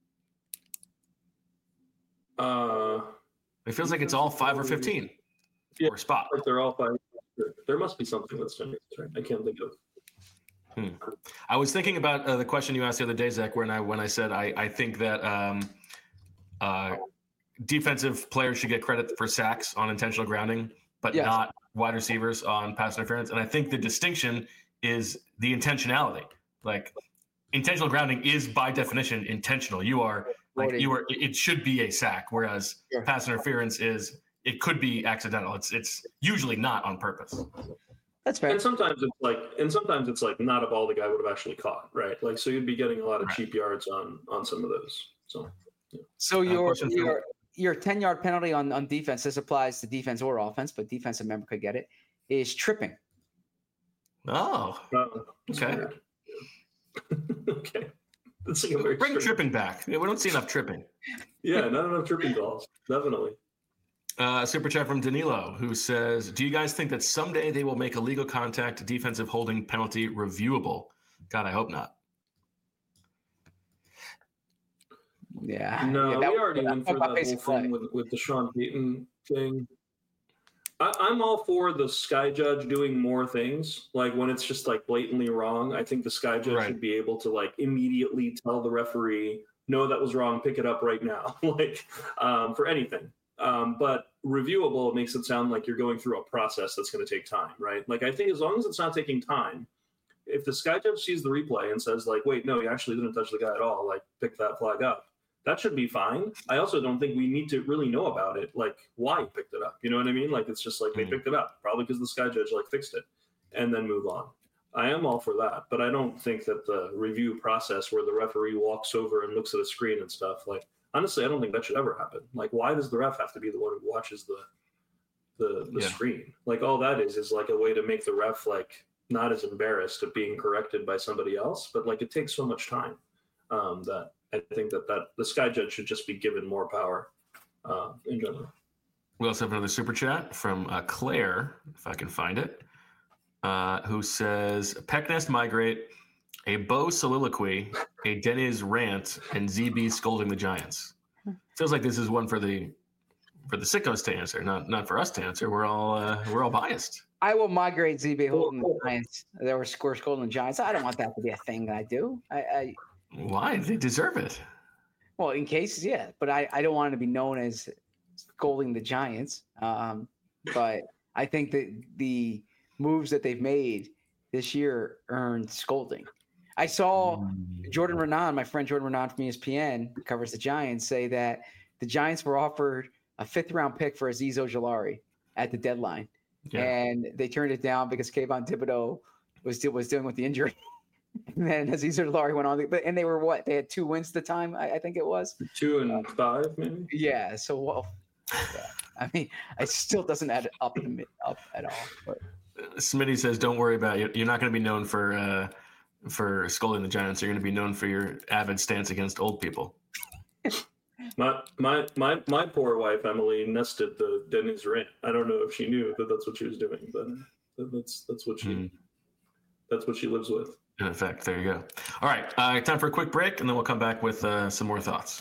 Uh, It feels like it's all five or fifteen. Yeah. Or spot. like they're all five. There must be something that's ten yards, right? I can't think of. I was thinking about uh, the question you asked the other day, Zach, when I when I said I I think that um, uh, defensive players should get credit for sacks on intentional grounding, but Yes. not wide receivers on pass interference. And I think the distinction is the intentionality. Like intentional grounding is by definition intentional. You are like Loading. you are. It should be a sack, whereas Sure. pass interference is it could be accidental. It's it's usually not on purpose. That's fair. And sometimes it's like, and sometimes it's like not a ball the guy would have actually caught, right? Like so, you'd be getting a lot of Right. cheap yards on on some of those. So So Uh, your question for- your your ten yard penalty on, on defense, this applies to defense or offense, but defensive member could get it, is tripping. Oh, uh, that's Okay. weird. Okay, that's like a very bring strange- tripping back. Yeah, we don't see enough tripping. Yeah, not enough tripping calls, definitely. Uh, super chat from Danilo, who says, "Do you guys think that someday they will make a legal contact defensive holding penalty reviewable?" God, I hope not. Yeah. No, yeah, that we was- already went talk through about that whole basic play. thing with, with the Sean Payton thing. I, I'm all for the sky judge doing more things. Like when it's just like blatantly wrong, I think the sky judge Right. should be able to like immediately tell the referee, no, that was wrong, pick it up right now. like um, for anything. Um, but reviewable makes it sound like you're going through a process that's going to take time, right? Like I think as long as it's not taking time, if the sky judge sees the replay and says like, wait, no, you actually didn't touch the guy at all, like pick that flag up, that should be fine. I also don't think we need to really know about it, like why he picked it up. You know what I mean? Like it's just like they Mhm. picked it up, probably because the sky judge like fixed it, and then move on. I am all for that, but I don't think that the review process where the referee walks over and looks at a screen and stuff, like honestly, I don't think that should ever happen. Like, why does the ref have to be the one who watches the the, the Yeah. screen? Like all that is is like a way to make the ref like not as embarrassed of being corrected by somebody else, but like it takes so much time um, that I think that, that the sky judge should just be given more power uh, in general. We also have another super chat from uh, Claire, if I can find it, uh, who says, "Pecknest migrate, a Bo soliloquy, a Deniz rant, and Z B scolding the Giants." Feels like this is one for the for the sickos to answer, not not for us to answer. We're all uh, we're all biased. I will migrate Z B holding the Giants. There were score scolding Giants. I don't want that to be a thing that I do. I, I Why? They deserve it. well, in cases, yeah, but I, I don't want to be known as scolding the Giants. Um, but I think that the moves that they've made this year earned scolding. I saw Jordan Renan, my friend Jordan Renan from E S P N, who covers the Giants, say that the Giants were offered a fifth round pick for Azeez Ojulari at the deadline. Yeah. And they turned it down because Kayvon Thibodeau was was dealing with the injury. And then Azeez Ojulari went on, but and they were what? They had two wins at the time, I, I think it was. Two and five, maybe. Yeah. So well, yeah. I mean, it still doesn't add up the mid- up at all. But Smitty says, "Don't worry about it. You're not going to be known for uh, for scolding the Giants. You're going to be known for your avid stance against old people." My my my my poor wife Emily nested the Denny's rant. I don't know if she knew that that's what she was doing, but that's that's what she Hmm. that's what she lives with. In effect, there you go. All right, uh, time for a quick break, and then we'll come back with uh, some more thoughts.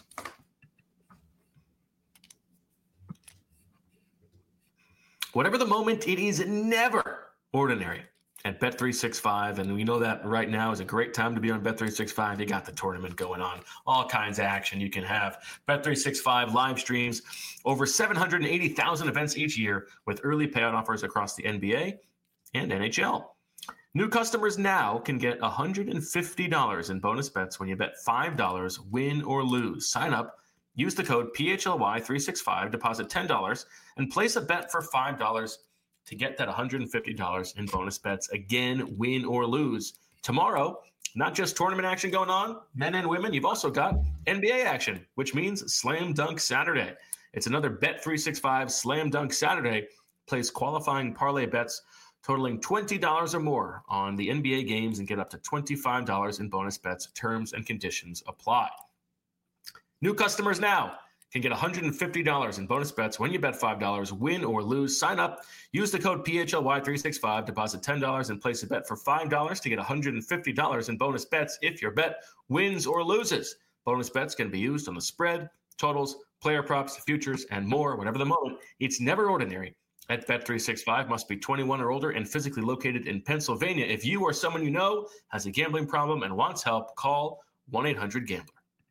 Whatever the moment, it is never ordinary at Bet three sixty-five, and we know that right now is a great time to be on Bet three sixty-five. You got the tournament going on, all kinds of action you can have. Bet three sixty-five live streams over seven hundred eighty thousand events each year with early payout offers across the N B A and N H L. New customers now can get one hundred fifty dollars in bonus bets when you bet five dollars, win or lose. Sign up, use the code P H L Y three sixty-five, deposit ten dollars, and place a bet for five dollars to get that one hundred fifty dollars in bonus bets. Again, win or lose. Tomorrow, not just tournament action going on, men and women, you've also got N B A action, which means Slam Dunk Saturday. It's another Bet three sixty-five Slam Dunk Saturday. Place qualifying parlay bets totaling twenty dollars or more on the N B A games and get up to twenty-five dollars in bonus bets. Terms and conditions apply. New customers now can get one hundred fifty dollars in bonus bets when you bet five dollars, win or lose. Sign up, use the code P H L Y three sixty-five, deposit ten dollars, and place a bet for five dollars to get one hundred fifty dollars in bonus bets if your bet wins or loses. Bonus bets can be used on the spread, totals, player props, futures, and more. Whatever the moment, it's never ordinary. At Bet three sixty-five, must be twenty-one or older and physically located in Pennsylvania. If you or someone you know has a gambling problem and wants help, call one eight hundred gambler.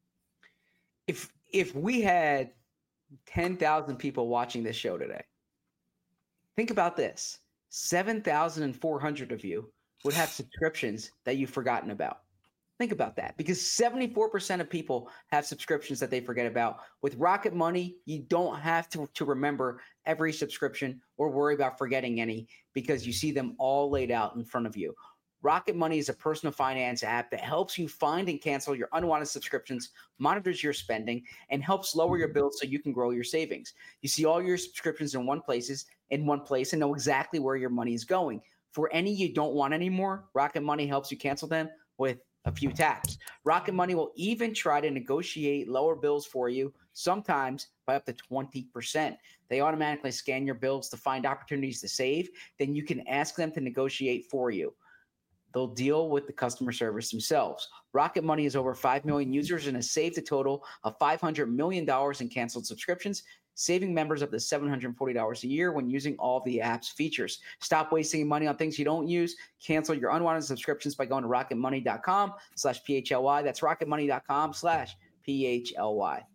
If if we had ten thousand people watching this show today, think about this. seven thousand four hundred of you would have subscriptions that you've forgotten about. Think about that, because seventy-four percent of people have subscriptions that they forget about. With Rocket Money, you don't have to, to remember every subscription or worry about forgetting any, because you see them all laid out in front of you. Rocket Money is a personal finance app that helps you find and cancel your unwanted subscriptions, monitors your spending, and helps lower your bills so you can grow your savings. You see all your subscriptions in one places, in one place and know exactly where your money is going. For any you don't want anymore, Rocket Money helps you cancel them with a few taps. Rocket Money will even try to negotiate lower bills for you, sometimes by up to twenty percent. They automatically scan your bills to find opportunities to save. Then you can ask them to negotiate for you. They'll deal with the customer service themselves. Rocket Money has over five million users and has saved a total of five hundred million dollars in canceled subscriptions, saving members up to seven hundred forty dollars a year when using all of the app's features. Stop wasting money on things you don't use. Cancel your unwanted subscriptions by going to rocketmoney.com slash PHLY. That's rocketmoney.com slash PHLY.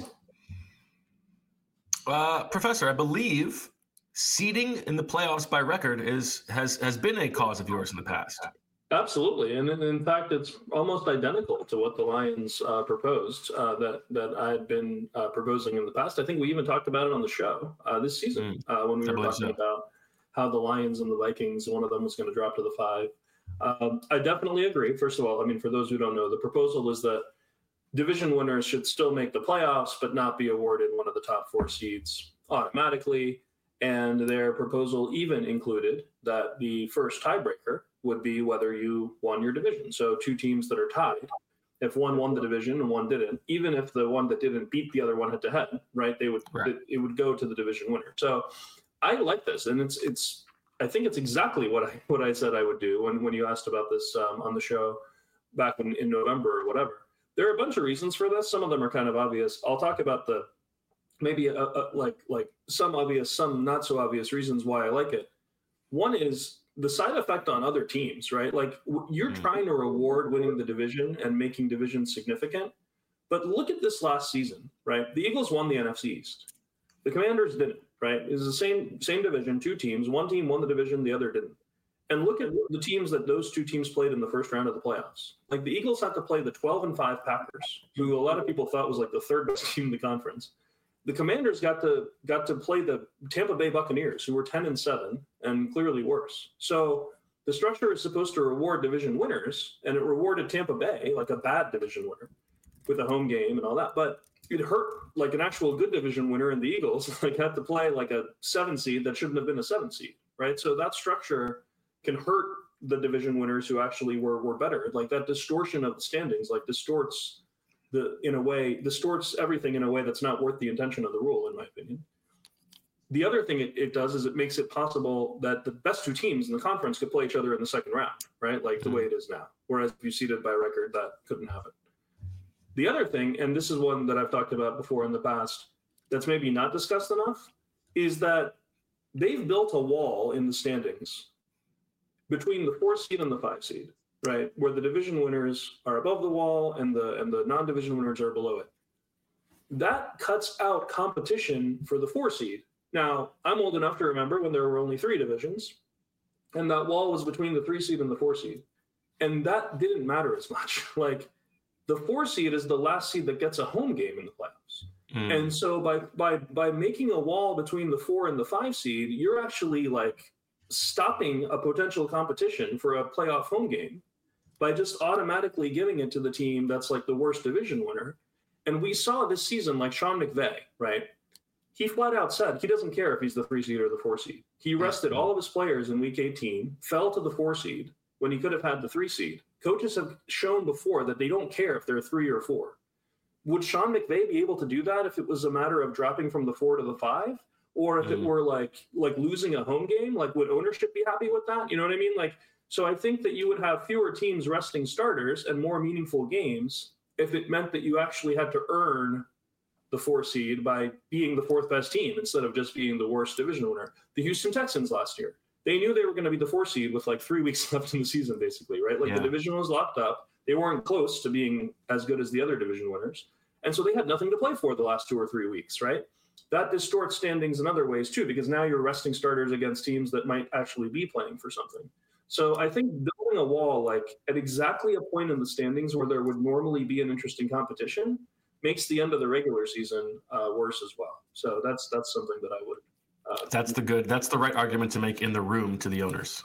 Uh, Professor, I believe seeding in the playoffs by record is has has been a cause of yours in the past. Absolutely, and in, in fact, it's almost identical to what the Lions uh, proposed uh, that that I had been uh, proposing in the past. I think we even talked about it on the show uh, this season mm, uh, when we were talking so. about how the Lions and the Vikings, one of them was going to drop to the five. Um, I definitely agree. First of all, I mean, for those who don't know, the proposal is that division winners should still make the playoffs, but not be awarded one of the top four seeds automatically. And their proposal even included that the first tiebreaker would be whether you won your division. So two teams that are tied, if one won the division and one didn't, even if the one that didn't beat the other one head to head, right? They would right. It, it would go to the division winner. So I like this, and it's it's. I think it's exactly what I what I said I would do when when you asked about this um, on the show back in, in November or whatever. There are a bunch of reasons for this. Some of them are kind of obvious. I'll talk about the maybe a, a, like like some obvious, some not so obvious reasons why I like it. One is the side effect on other teams, right? Like you're mm-hmm. trying to reward winning the division and making division significant. But look at this last season, right? The Eagles won the N F C East. The Commanders didn't, right? It was the same same division, two teams. One team won the division, the other didn't. And look at the teams that those two teams played in the first round of the playoffs. Like the Eagles had to play the twelve and five Packers, who a lot of people thought was like the third best team in the conference. The Commanders got to got to play the Tampa Bay Buccaneers, who were ten and seven and clearly worse. So the structure is supposed to reward division winners, and it rewarded Tampa Bay like a bad division winner with a home game and all that. But it hurt like an actual good division winner in the Eagles like had to play like a seven seed that shouldn't have been a seven seed, right? So that structure can hurt the division winners who actually were were better. Like that distortion of the standings like distorts the in a way distorts everything in a way that's not worth the intention of the rule, in my opinion. The other thing it, it does is it makes it possible that the best two teams in the conference could play each other in the second round, right? Like the way it is now. Whereas if you seeded by record, that couldn't happen. The other thing, and this is one that I've talked about before in the past, that's maybe not discussed enough, is that they've built a wall in the standings between the four seed and the five seed, right? Where the division winners are above the wall and the and the non-division winners are below it. That cuts out competition for the four seed. Now, I'm old enough to remember when there were only three divisions. and that wall was between the three seed and the four seed. And that didn't matter as much. Like, the four seed is the last seed that gets a home game in the playoffs. Mm. And so by by by making a wall between the four and the five seed, you're actually like stopping a potential competition for a playoff home game by just automatically giving it to the team that's like the worst division winner. And we saw this season, like Sean McVay, right? He flat out said he doesn't care if he's the three seed or the four seed. He rested all of his players in week eighteen, fell to the four seed when he could have had the three seed. Coaches have shown before that they don't care if they're three or four. Would Sean McVay be able to do that if it was a matter of dropping from the four to the five? Or if mm. it were like like losing a home game? Like, would ownership be happy with that? You know what I mean? Like, so I think that you would have fewer teams resting starters and more meaningful games if it meant that you actually had to earn the four seed by being the fourth best team instead of just being the worst division winner. The Houston Texans last year, they knew they were going to be the four seed with like three weeks left in the season, basically, right? Like yeah. the division was locked up. They weren't close to being as good as the other division winners. And so they had nothing to play for the last two or three weeks, right? That distorts standings in other ways too, because now you're resting starters against teams that might actually be playing for something. So I think building a wall like at exactly a point in the standings where there would normally be an interesting competition makes the end of the regular season uh, worse as well. So that's that's something that I would. Uh, that's the good. That's the right argument to make in the room to the owners.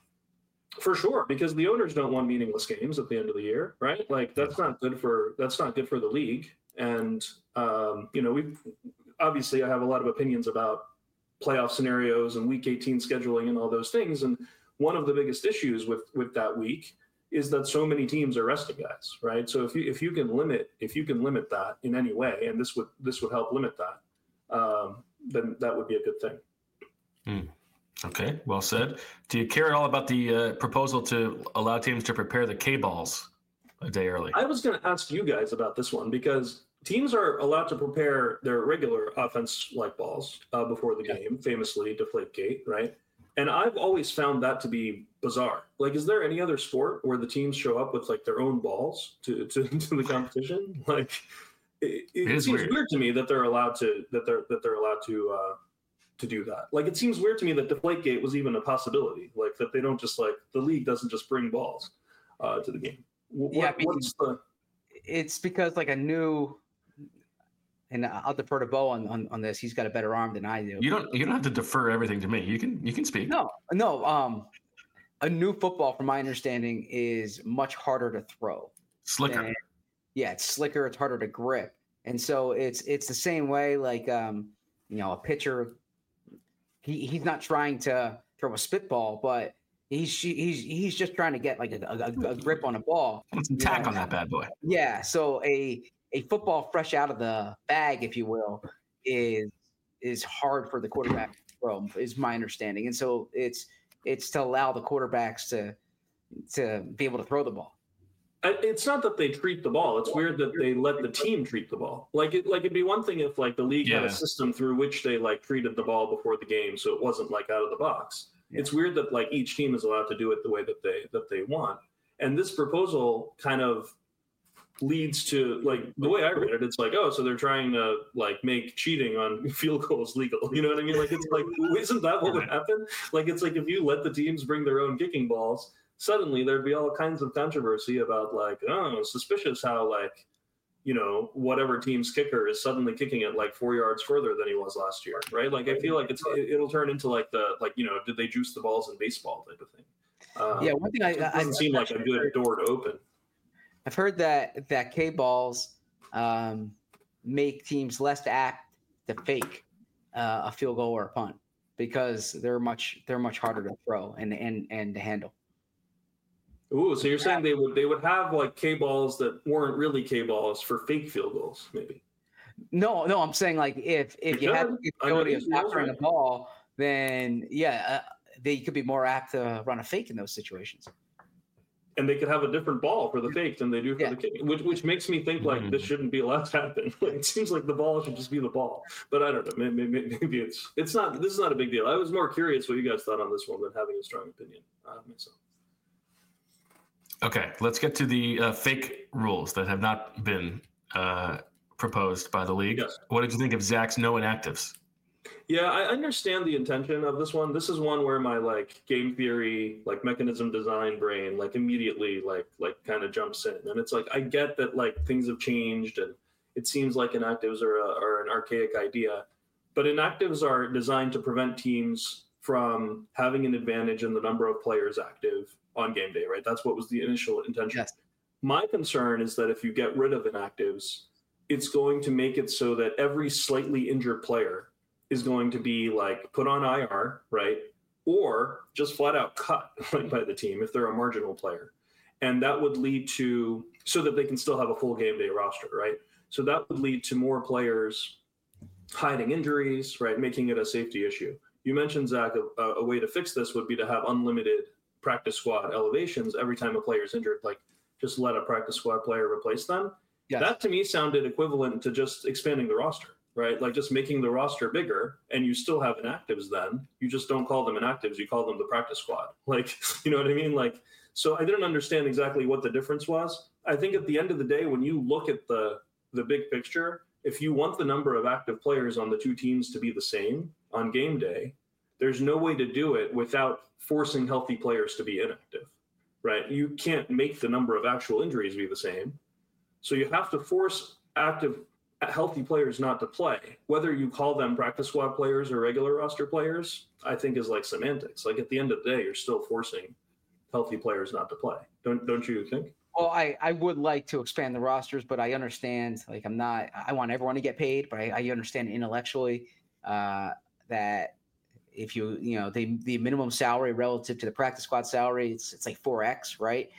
For sure, because the owners don't want meaningless games at the end of the year, right? Like that's not good for that's not good for the league. And um, you know, we obviously I have a lot of opinions about playoff scenarios and week eighteen scheduling and all those things. And one of the biggest issues with with that week is that so many teams are resting guys, right? So if you if you can limit if you can limit that in any way, and this would this would help limit that, um, then that would be a good thing. Mm. Okay, well said. Do you care at all about the uh, proposal to allow teams to prepare the K-balls a day early? I was going to ask you guys about this one because teams are allowed to prepare their regular offense-like balls uh, before the yeah. game, famously Deflategate, right? And I've always found that to be bizarre. Like, is there any other sport where the teams show up with like their own balls to to, to the competition? Like, it, it, it seems weird. weird to me that they're allowed to that they're that they're allowed to uh, to do that. Like, it seems weird to me that Deflategate was even a possibility. Like that they don't just like the league doesn't just bring balls uh, to the game. What, yeah, what's the? It's because like a new. And I'll defer to Bo on, on, on this. He's got a better arm than I do. You don't you don't have to defer everything to me. You can you can speak. No, no. Um, a new football, from my understanding, is much harder to throw. Slicker. Than, yeah, it's slicker. It's harder to grip, and so it's it's the same way. Like um, you know, a pitcher. He he's not trying to throw a spitball, but he's he's he's just trying to get like a, a, a grip on a ball. Put some tack on that bad boy. Yeah. So a A football fresh out of the bag, if you will, is is hard for the quarterback to throw, is my understanding. And so it's it's to allow the quarterbacks to to be able to throw the ball. It's not that they treat the ball. It's weird that they let the team treat the ball. Like it, like it'd be one thing if like the league yeah. had a system through which they like treated the ball before the game, so it wasn't like out of the box. Yeah. It's weird that like each team is allowed to do it the way that they that they want. And this proposal kind of leads to like the way I read it, it's like, oh, so they're trying to like make cheating on field goals legal. You know what I mean? Like it's like, isn't that what would happen? Like it's like if you let the teams bring their own kicking balls, suddenly there'd be all kinds of controversy about like, oh, suspicious how like, you know, whatever team's kicker is suddenly kicking it like four yards further than he was last year, right? Like I feel like it's it'll turn into like the like you know, did they juice the balls in baseball type of thing? Um, yeah, one thing I it doesn't I, seem I, like a good door to open. I've heard that that K balls um, make teams less apt to fake uh, a field goal or a punt because they're much they're much harder to throw and and and to handle. Ooh, so you're saying they would they would have like K balls that weren't really K balls for fake field goals, maybe? No, no, I'm saying like if if you, you have the ability of capturing the ball, then yeah, uh, they could be more apt to run a fake in those situations. And they could have a different ball for the fake than they do for yeah. the kick, which which makes me think like mm-hmm. this shouldn't be allowed to happen. Like, it seems like the ball should just be the ball, but I don't know. Maybe, maybe, maybe it's it's not. This is not a big deal. I was more curious what you guys thought on this one than having a strong opinion uh, myself. Okay, let's get to the uh, fake rules that have not been uh, proposed by the league. Yes. What did you think of Zach's no inactives? Yeah, I understand the intention of this one. This is one where my like game theory, like mechanism design brain, like immediately like like kind of jumps in, and it's like I get that like things have changed, and it seems like inactives are, a, are an archaic idea, but inactives are designed to prevent teams from having an advantage in the number of players active on game day, right? That's what was the initial intention. Yes. My concern is that if you get rid of inactives, it's going to make it so that every slightly injured player is going to be like put on I R, right? Or just flat out cut by the team if they're a marginal player. And that would lead to, so that they can still have a full game day roster, right? So that would lead to more players hiding injuries, right? Making it a safety issue. You mentioned, Zach, a, a way to fix this would be to have unlimited practice squad elevations every time a player is injured, like just let a practice squad player replace them. Yes. That to me sounded equivalent to just expanding the roster. Right? Like just making the roster bigger, and you still have inactives then. You just don't call them inactives, you call them the practice squad. Like, you know what I mean? Like, so I didn't understand exactly what the difference was. I think at the end of the day, when you look at the the big picture, if you want the number of active players on the two teams to be the same on game day, there's no way to do it without forcing healthy players to be inactive, right? You can't make the number of actual injuries be the same. So you have to force active healthy players not to play. Whether you call them practice squad players or regular roster players, I think is like semantics. Like at the end of the day, you're still forcing healthy players not to play. Don't don't you think? Well, I, I would like to expand the rosters, but I understand, like, I'm not, I want everyone to get paid, but I, I understand intellectually uh, that if you, you know, the, the minimum salary relative to the practice squad salary, it's, it's like four X, right?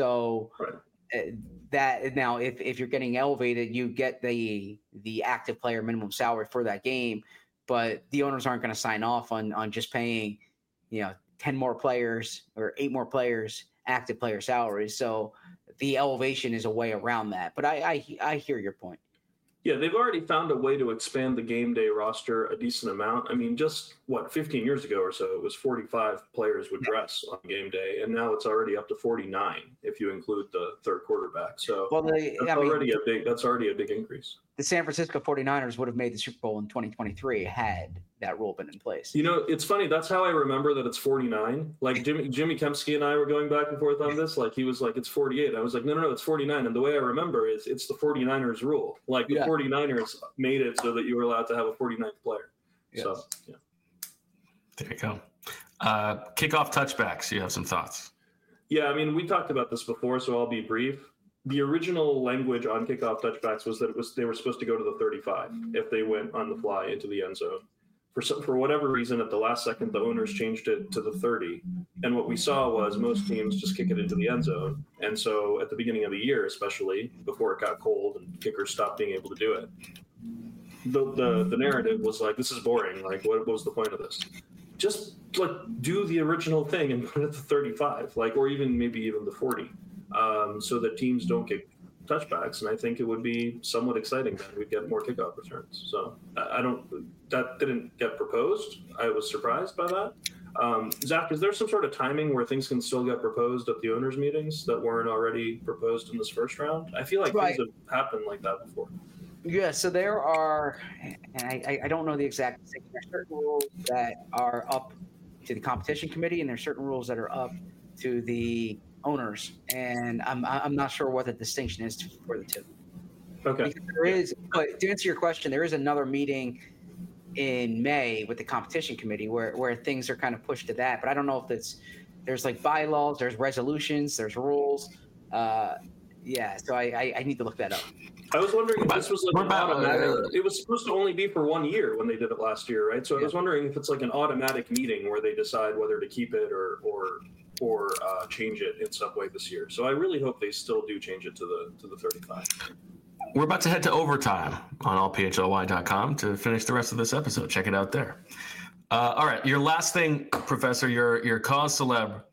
So Right. uh, that now, if, if you're getting elevated, you get the, the active player minimum salary for that game, but the owners aren't going to sign off on, on just paying, you know, ten more players or eight more players, active player salaries. So the elevation is a way around that. But I, I, I hear your point. Yeah, they've already found a way to expand the game day roster a decent amount. I mean, just what, fifteen years ago or so, it was forty-five players would dress on game day, and now it's already up to forty-nine if you include the third quarterback. So well, they, that's I mean, already a big that's already a big increase. The San Francisco forty-niners would have made the Super Bowl in twenty twenty-three had that rule been in place. You know, it's funny. That's how I remember that it's forty-nine. Like Jimmy, Jimmy Kempski and I were going back and forth on this. Like he was like, it's forty-eight. I was like, no, no, no, it's forty-nine. And the way I remember is it's the forty-niners rule. Like the Yeah. forty-niners made it so that you were allowed to have a forty-ninth player. Yes. So, yeah. There you go. Uh, kickoff touchbacks. You have some thoughts? Yeah, I mean, we talked about this before, so I'll be brief. The original language on kickoff touchbacks was that it was they were supposed to go to the thirty-five if they went on the fly into the end zone. For some, for whatever reason, at the last second, the owners changed it to the thirty. And what we saw was most teams just kick it into the end zone. And so at the beginning of the year, especially before it got cold and kickers stopped being able to do it, the the, the narrative was like, this is boring. Like, what, what was the point of this? Just like do the original thing and put it at the thirty-five, like, or even maybe even the forty, um, so that teams don't get touchbacks. And I think it would be somewhat exciting that we'd get more kickoff returns. So I don't, that didn't get proposed. I was surprised by that. Um, Zach, is there some sort of timing where things can still get proposed at the owners' meetings that weren't already proposed in this first round? I feel like Right. things have happened like that before. Yeah, so there are, and I, I don't know the exact thing. There are certain rules that are up to the competition committee, and there are certain rules that are up to the owners. And I'm I'm not sure what the distinction is for the two. Okay. Because there is, but to answer your question, there is another meeting in May with the competition committee where, where things are kind of pushed to that. But I don't know if it's there's like bylaws, there's resolutions, there's rules. Uh, yeah, so I, I I need to look that up. I was wondering if What this was like about- an what about, automatic. uh, It was supposed to only be for one year when they did it last year, right? So I Yeah. was wondering if it's like an automatic meeting where they decide whether to keep it or or or uh, change it in some way this year. So I really hope they still do change it to the to the thirty-five. We're about to head to overtime on all p h l y dot com to finish the rest of this episode. Check it out there. Uh, all right, your last thing, Professor, your your cause celeb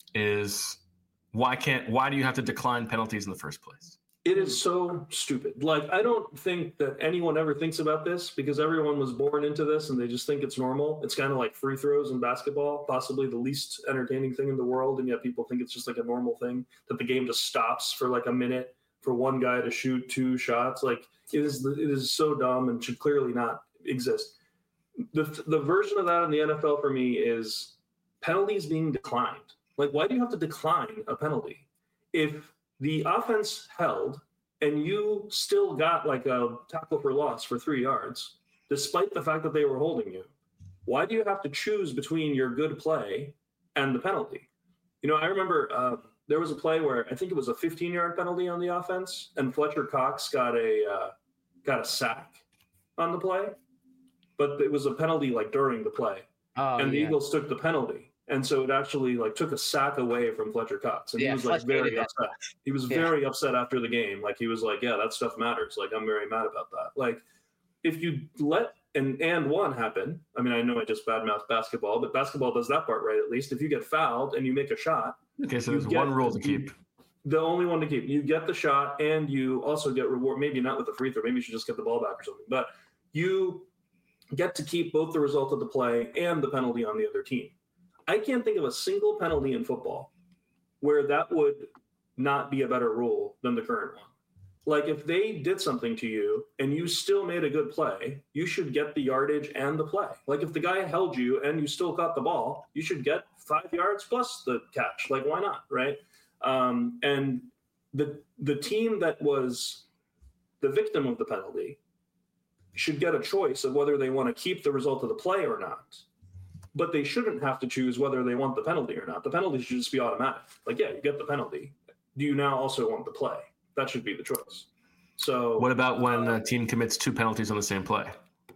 is why can't why do you have to decline penalties in the first place? It is so stupid. Like, I don't think that anyone ever thinks about this because everyone was born into this and they just think it's normal. It's kind of like free throws in basketball, possibly the least entertaining thing in the world. And yet people think it's just like a normal thing that the game just stops for like a minute for one guy to shoot two shots. Like, it is, it is so dumb and should clearly not exist. the the version of that in the N F L for me is penalties being declined. Like, why do you have to decline a penalty? If the offense held and you still got like a tackle for loss for three yards, despite the fact that they were holding you, why do you have to choose between your good play and the penalty? You know, I remember uh, there was a play where I think it was a fifteen-yard penalty on the offense, and Fletcher Cox got a uh, got a sack on the play, but it was a penalty like during the play, oh, and the yeah. Eagles took the penalty. And so it actually like took a sack away from Fletcher Cox. And Yeah, he was like Fletcher very hated that. upset. He was Yeah. very upset after the game. Like he was like, yeah, that stuff matters. Like I'm very mad about that. Like if you let an and one happen, I mean, I know I just badmouthed basketball, but basketball does that part right at least. If you get fouled and you make a shot, Okay, so you there's get- one rule to keep. the only one to keep. You get the shot and you also get reward. Maybe not with the free throw. Maybe you should just get the ball back or something. But you get to keep both the result of the play and the penalty on the other team. I can't think of a single penalty in football where that would not be a better rule than the current one. Like if they did something to you and you still made a good play, you should get the yardage and the play. Like if the guy held you and you still got the ball, you should get five yards plus the catch. Like why not, right? Um, and the the team that was the victim of the penalty should get a choice of whether they want to keep the result of the play or not. But they shouldn't have to choose whether they want the penalty or not. The penalty should just be automatic. Like, yeah, you get the penalty. Do you now also want the play? That should be the choice. So What about when a team commits two penalties on the same play?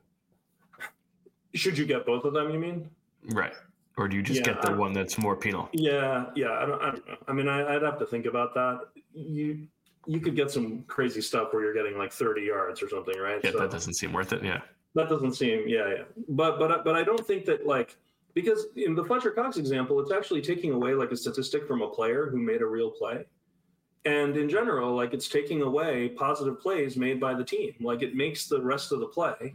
should you get both of them, you mean? Right. Or do you just Yeah, get the I- one that's more penal? Yeah, yeah. I don't, I don't know. I mean, I, I'd have to think about that. You you could get some crazy stuff where you're getting like thirty yards or something, right? Yeah, So that doesn't seem worth it. Yeah. that doesn't seem, yeah, yeah. But but but I don't think that like because in the Fletcher Cox example, it's actually taking away like a statistic from a player who made a real play. And in general, like it's taking away positive plays made by the team. Like it makes the rest of the play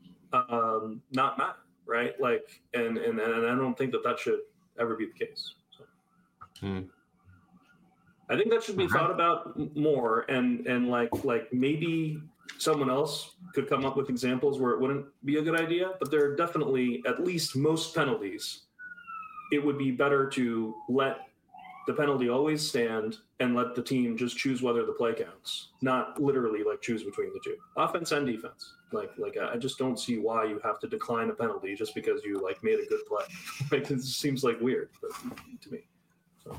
um, not matter, right? Like, and, and and I don't think that that should ever be the case. So. Hmm. I think that should be Okay. thought about m- more, and and like like maybe someone else could come up with examples where it wouldn't be a good idea. But there are definitely at least most penalties. It would be better to let the penalty always stand and let the team just choose whether the play counts, not literally like choose between the two, offense and defense. Like like I just don't see why you have to decline a penalty just because you like made a good play. Like it seems like weird but, to me. So.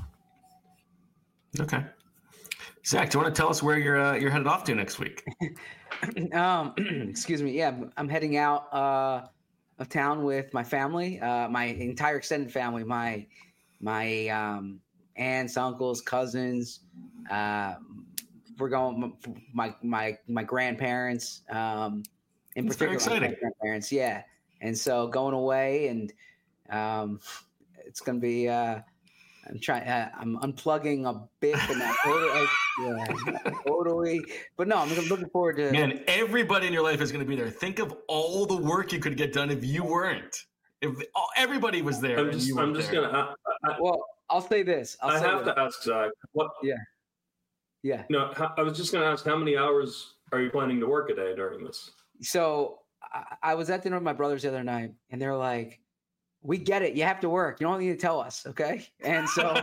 Okay. Zach, do you want to tell us where you're uh, you're headed off to next week? um, excuse me. Yeah, I'm heading out uh, of town with my family, uh, my entire extended family, my my um, aunts, uncles, cousins. Uh, we're going my my my grandparents. Um, in That's very particular, my exciting. grandparents. Yeah, and so going away, and um, it's gonna be. Uh, I'm trying. Uh, I'm unplugging a bit, but not totally. Yeah, not totally. But no, I'm looking forward to. Man, everybody in your life is going to be there. Think of all the work you could get done if you weren't. If all, everybody was there, I'm and just you I'm weren't just there. gonna. I, I, Well, I'll say this. I'll I say have this. to ask Zach. What? Yeah. No, how, I was just gonna ask how many hours are you planning to work a day during this? So I, I was at dinner with my brothers the other night, and they're like, "We get it. You have to work. You don't need to tell us, okay?" And so,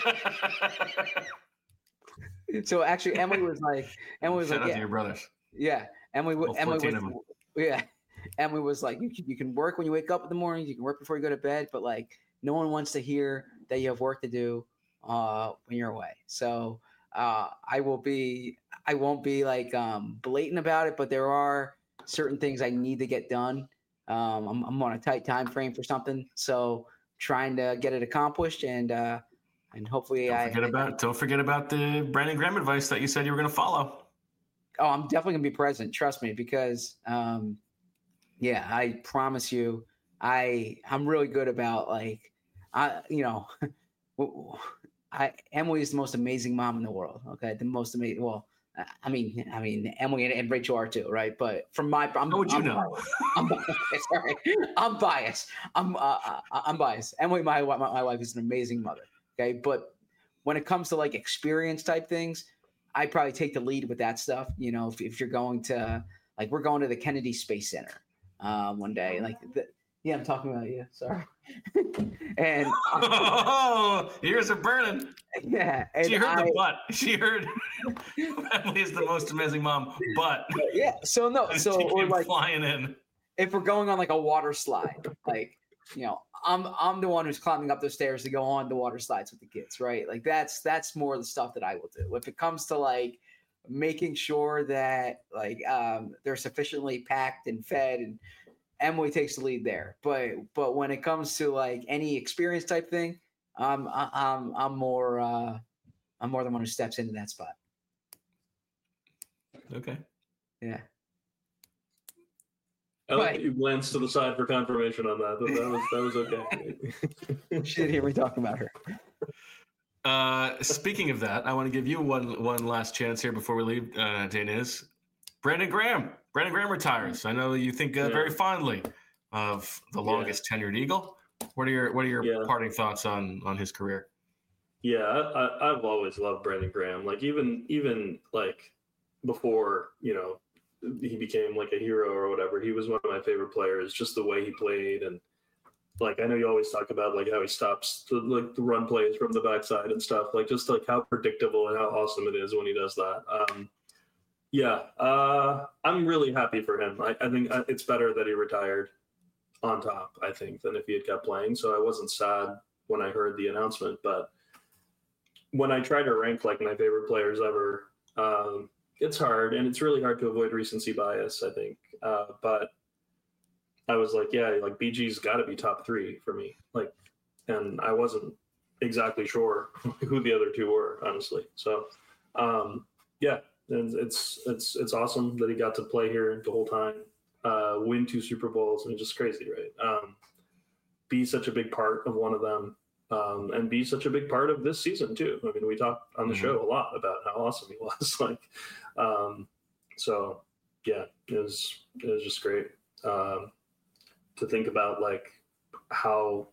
so actually, Emily was like, Emily was Shout out like, to "Yeah, your brothers. yeah." Emily, All Emily fourteen was, of them. yeah. Emily was like, "You can, you can work when you wake up in the morning. You can work before you go to bed, but like, no one wants to hear that you have work to do uh, when you're away." So uh, I will be, I won't be like um, blatant about it, but there are certain things I need to get done. Um, I'm, I'm on a tight time frame for something, so trying to get it accomplished, and uh, and hopefully Don't I forget about don't forget about the Brandon Graham advice that you said you were going to follow. Oh, I'm definitely gonna be present. Trust me, because um, yeah, I promise you, I I'm really good about like, I you know, I Emily is the most amazing mom in the world. Okay, the most amazing. Well, I mean, I mean, Emily and, and Rachel are too, right? But from my, I'm, How would you I'm know? biased. I'm biased. Sorry, I'm biased. I'm uh, I'm biased. Emily, my, my my wife, is an amazing mother. Okay, but when it comes to like experience type things, I probably take the lead with that stuff. You know, if, if you're going to like, we're going to the Kennedy Space Center. um, one day. Like, the, yeah, I'm talking about you. Sorry. and oh, ears are burning. Yeah, and she heard I, the butt. She heard Emily is the most amazing mom, but yeah. So no, so she or came like flying in. If we're going on like a water slide, like you know, I'm I'm the one who's climbing up the stairs to go on the water slides with the kids, right? Like that's that's more the stuff that I will do. If it comes to like making sure that like um, they're sufficiently packed and fed, and Emily takes the lead there. But but when it comes to like any experience type thing, um, I, I'm I'm more uh, I'm more the one who steps into that spot. Okay. Yeah. I like that you glanced to the side for confirmation on that. That, that was that was okay. She didn't hear me talking about her. Uh, speaking of that, I want to give you one one last chance here before we leave. Uh, Daniz, Brandon Graham. Brandon Graham retires. I know you think uh, Yeah. very fondly of the longest yeah. tenured Eagle. What are your What are your yeah. parting thoughts on on his career? Yeah, I, I, I've always loved Brandon Graham. Like even even like before, you know, he became like a hero or whatever. He was one of my favorite players, just the way he played. And like, I know you always talk about like how he stops the, like the run plays from the backside and stuff, like just like how predictable and how awesome it is when he does that. Um, yeah, uh, I'm really happy for him. I, I think it's better that he retired on top, I think, than if he had kept playing. So I wasn't sad when I heard the announcement, but when I try to rank like my favorite players ever, um, it's hard, and it's really hard to avoid recency bias, I think. Uh, but I was like, yeah, like B G's got to be top three for me. Like, and I wasn't exactly sure who the other two were, honestly. So, um, yeah, and it's it's it's awesome that he got to play here the whole time, uh, win two Super Bowls, and it's just crazy, right? Um, be such a big part of one of them. Um, and be such a big part of this season too. I mean, we talked on the mm-hmm. show a lot about how awesome he was. like, um, so yeah, it was it was just great um, to think about like how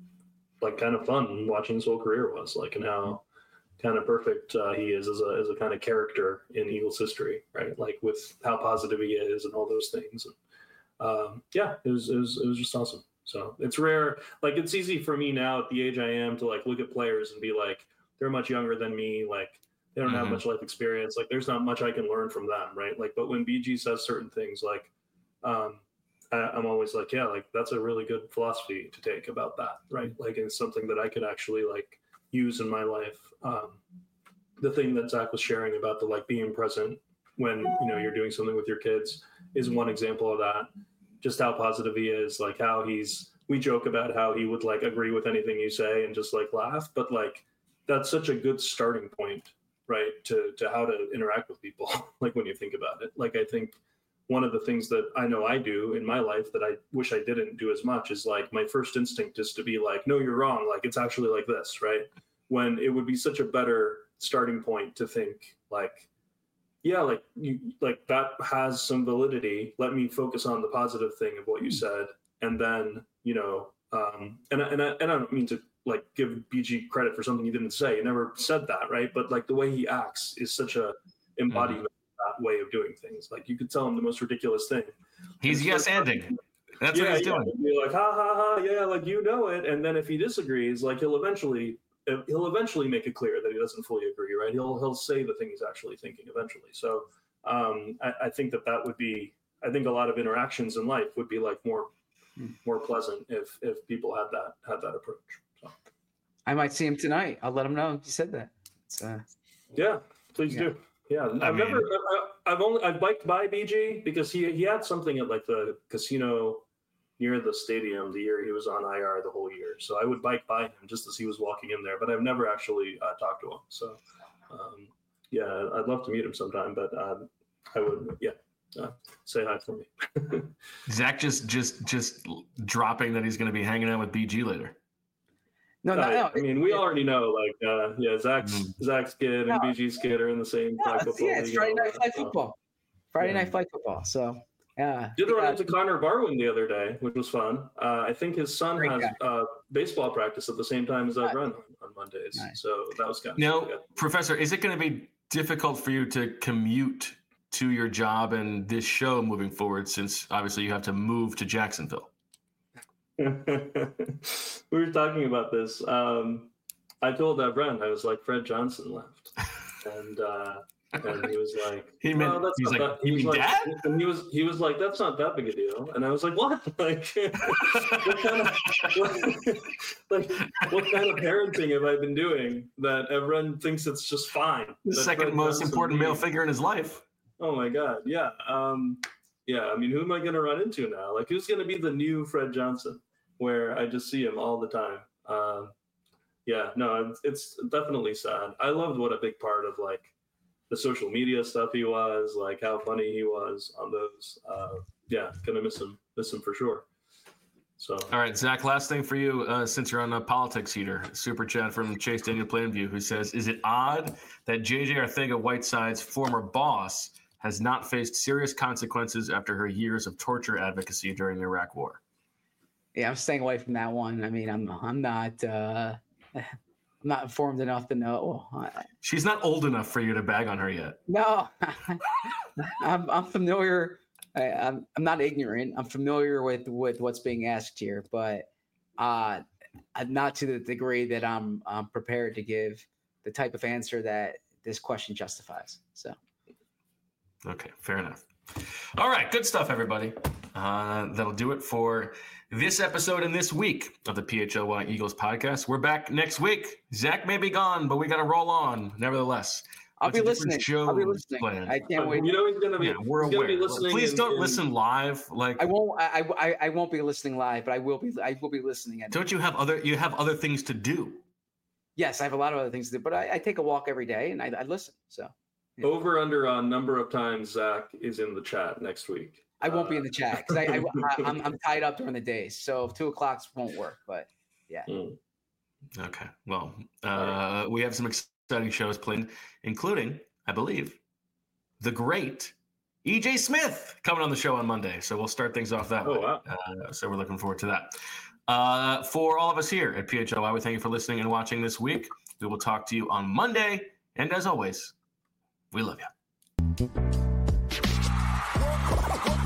like kind of fun watching his whole career was like, and how kind of perfect uh, he is as a as a kind of character in Eagles history, right? Like with how positive he is and all those things. And, um, yeah, it was it was it was just awesome. So it's rare. Like it's easy for me now at the age I am to like look at players and be like, they're much younger than me. Like they don't mm-hmm. have much life experience. Like there's not much I can learn from them. Right. Like, but when B G says certain things, like um, I, I'm always like, yeah, like that's a really good philosophy to take about that. Right. Like it's something that I could actually like use in my life. Um, the thing that Zach was sharing about the like being present when, you know, you're doing something with your kids is one example of that. Just how positive he is, like how he's, we joke about how he would like agree with anything you say and just like laugh, but like, that's such a good starting point, right? To, to how to interact with people. Like when you think about it, like, I think one of the things that I know I do in my life that I wish I didn't do as much is like, my first instinct is to be like, no, you're wrong. Like, it's actually like this, right? When it would be such a better starting point to think like, yeah, like you, like that has some validity. Let me focus on the positive thing of what you said, and then you know, um, and and I, and I don't mean to like give B G credit for something he didn't say. He never said that, right? But like the way he acts is such a embodiment mm-hmm. of that way of doing things. Like you could tell him the most ridiculous thing. He's yes ending. That's yeah, what he's yeah. doing. Be like ha ha ha, yeah, like you know it. And then if he disagrees, like he'll eventually. He'll eventually make it clear that he doesn't fully agree, right? He'll he'll say the thing he's actually thinking eventually. So um, I, I think that that would be. I think a lot of interactions in life would be like more more pleasant if if people had that had that approach. So. I might see him tonight. I'll let him know you said that. Uh, yeah, please yeah. do. Yeah, I I've mean, never. I, I've only I've biked by B G because he he had something at like the casino near the stadium the year he was on I R the whole year. So I would bike by him just as he was walking in there, but I've never actually uh, talked to him. So um, yeah, I'd love to meet him sometime, but uh, I would, yeah, uh, say hi for me. Zach just, just, just dropping that he's going to be hanging out with B G later. No, no, uh, no. I mean, we already know, like, uh, yeah, Zach's mm-hmm. Zach's kid and no. B G's kid are in the same no, flag football. Yeah, it's Friday night flag football. Friday yeah. night flag football. So. Yeah. Did run into Connor Barwin the other day, which was fun. Uh, I think his son Great has uh, baseball practice at the same time as I run on, on Mondays. Nice. So that was kind of now, good. Professor, is it going to be difficult for you to commute to your job and this show moving forward, since obviously you have to move to Jacksonville? We were talking about this. Um, I told Evren, I was like, Fred Johnson left. And uh, and he was like, he meant, oh, that's he's not like, that. He you was mean like, dad? And he was he was like, that's not that big a deal. And I was like, what? Like, what kind of what, like what kind of parenting have I been doing that everyone thinks it's just fine? The second Fred most Johnson important male leaves. figure in his life. Oh my God, yeah, um, yeah. I mean, who am I going to run into now? Like, who's going to be the new Fred Johnson, where I just see him all the time? Um, yeah, no, it's, it's definitely sad. I loved what a big part of like the social media stuff he was, like how funny he was on those. Uh, yeah, gonna miss him, miss him for sure. So, all right, Zach, last thing for you, uh, since you're on a politics heater, super chat from Chase Daniel Plainview, who says, is it odd that J J Arcega-Whiteside's former boss has not faced serious consequences after her years of torture advocacy during the Iraq War? Yeah, I'm staying away from that one. I mean, I'm I'm not uh, I'm not informed enough to know. She's not old enough for you to bag on her yet. No, I'm I'm familiar. I, I'm I'm not ignorant. I'm familiar with with what's being asked here, but uh, not to the degree that I'm I'm prepared to give the type of answer that this question justifies. So, okay, fair enough. All right, good stuff, everybody. Uh, that'll do it for this episode and this week of the P H L Y Eagles podcast. We're back next week. Zach may be gone, but we got to roll on nevertheless. I'll What's be a different listening. I'll be listening. planned? I can't wait. you know he's gonna be. Yeah, we're he's gonna aware. be listening. Please in- don't in- listen live. Like I won't. I, I I won't be listening live, but I will be. I will be listening. At don't you have other? You have other things to do. Yes, I have a lot of other things to do, but I, I take a walk every day and I, I listen. So Over under on number of times Zach is in the chat next week. I won't be in the chat because I, I, I I'm I'm tied up during the days. So two o'clock won't work. But yeah. Mm. Okay. Well, uh, we have some exciting shows planned, including, I believe, the great E J Smith coming on the show on Monday. So we'll start things off that Oh, way. wow. Uh, so we're looking forward to that. Uh, for all of us here at P H L Y, we thank you for listening and watching this week. We will talk to you on Monday. And as always, we love you.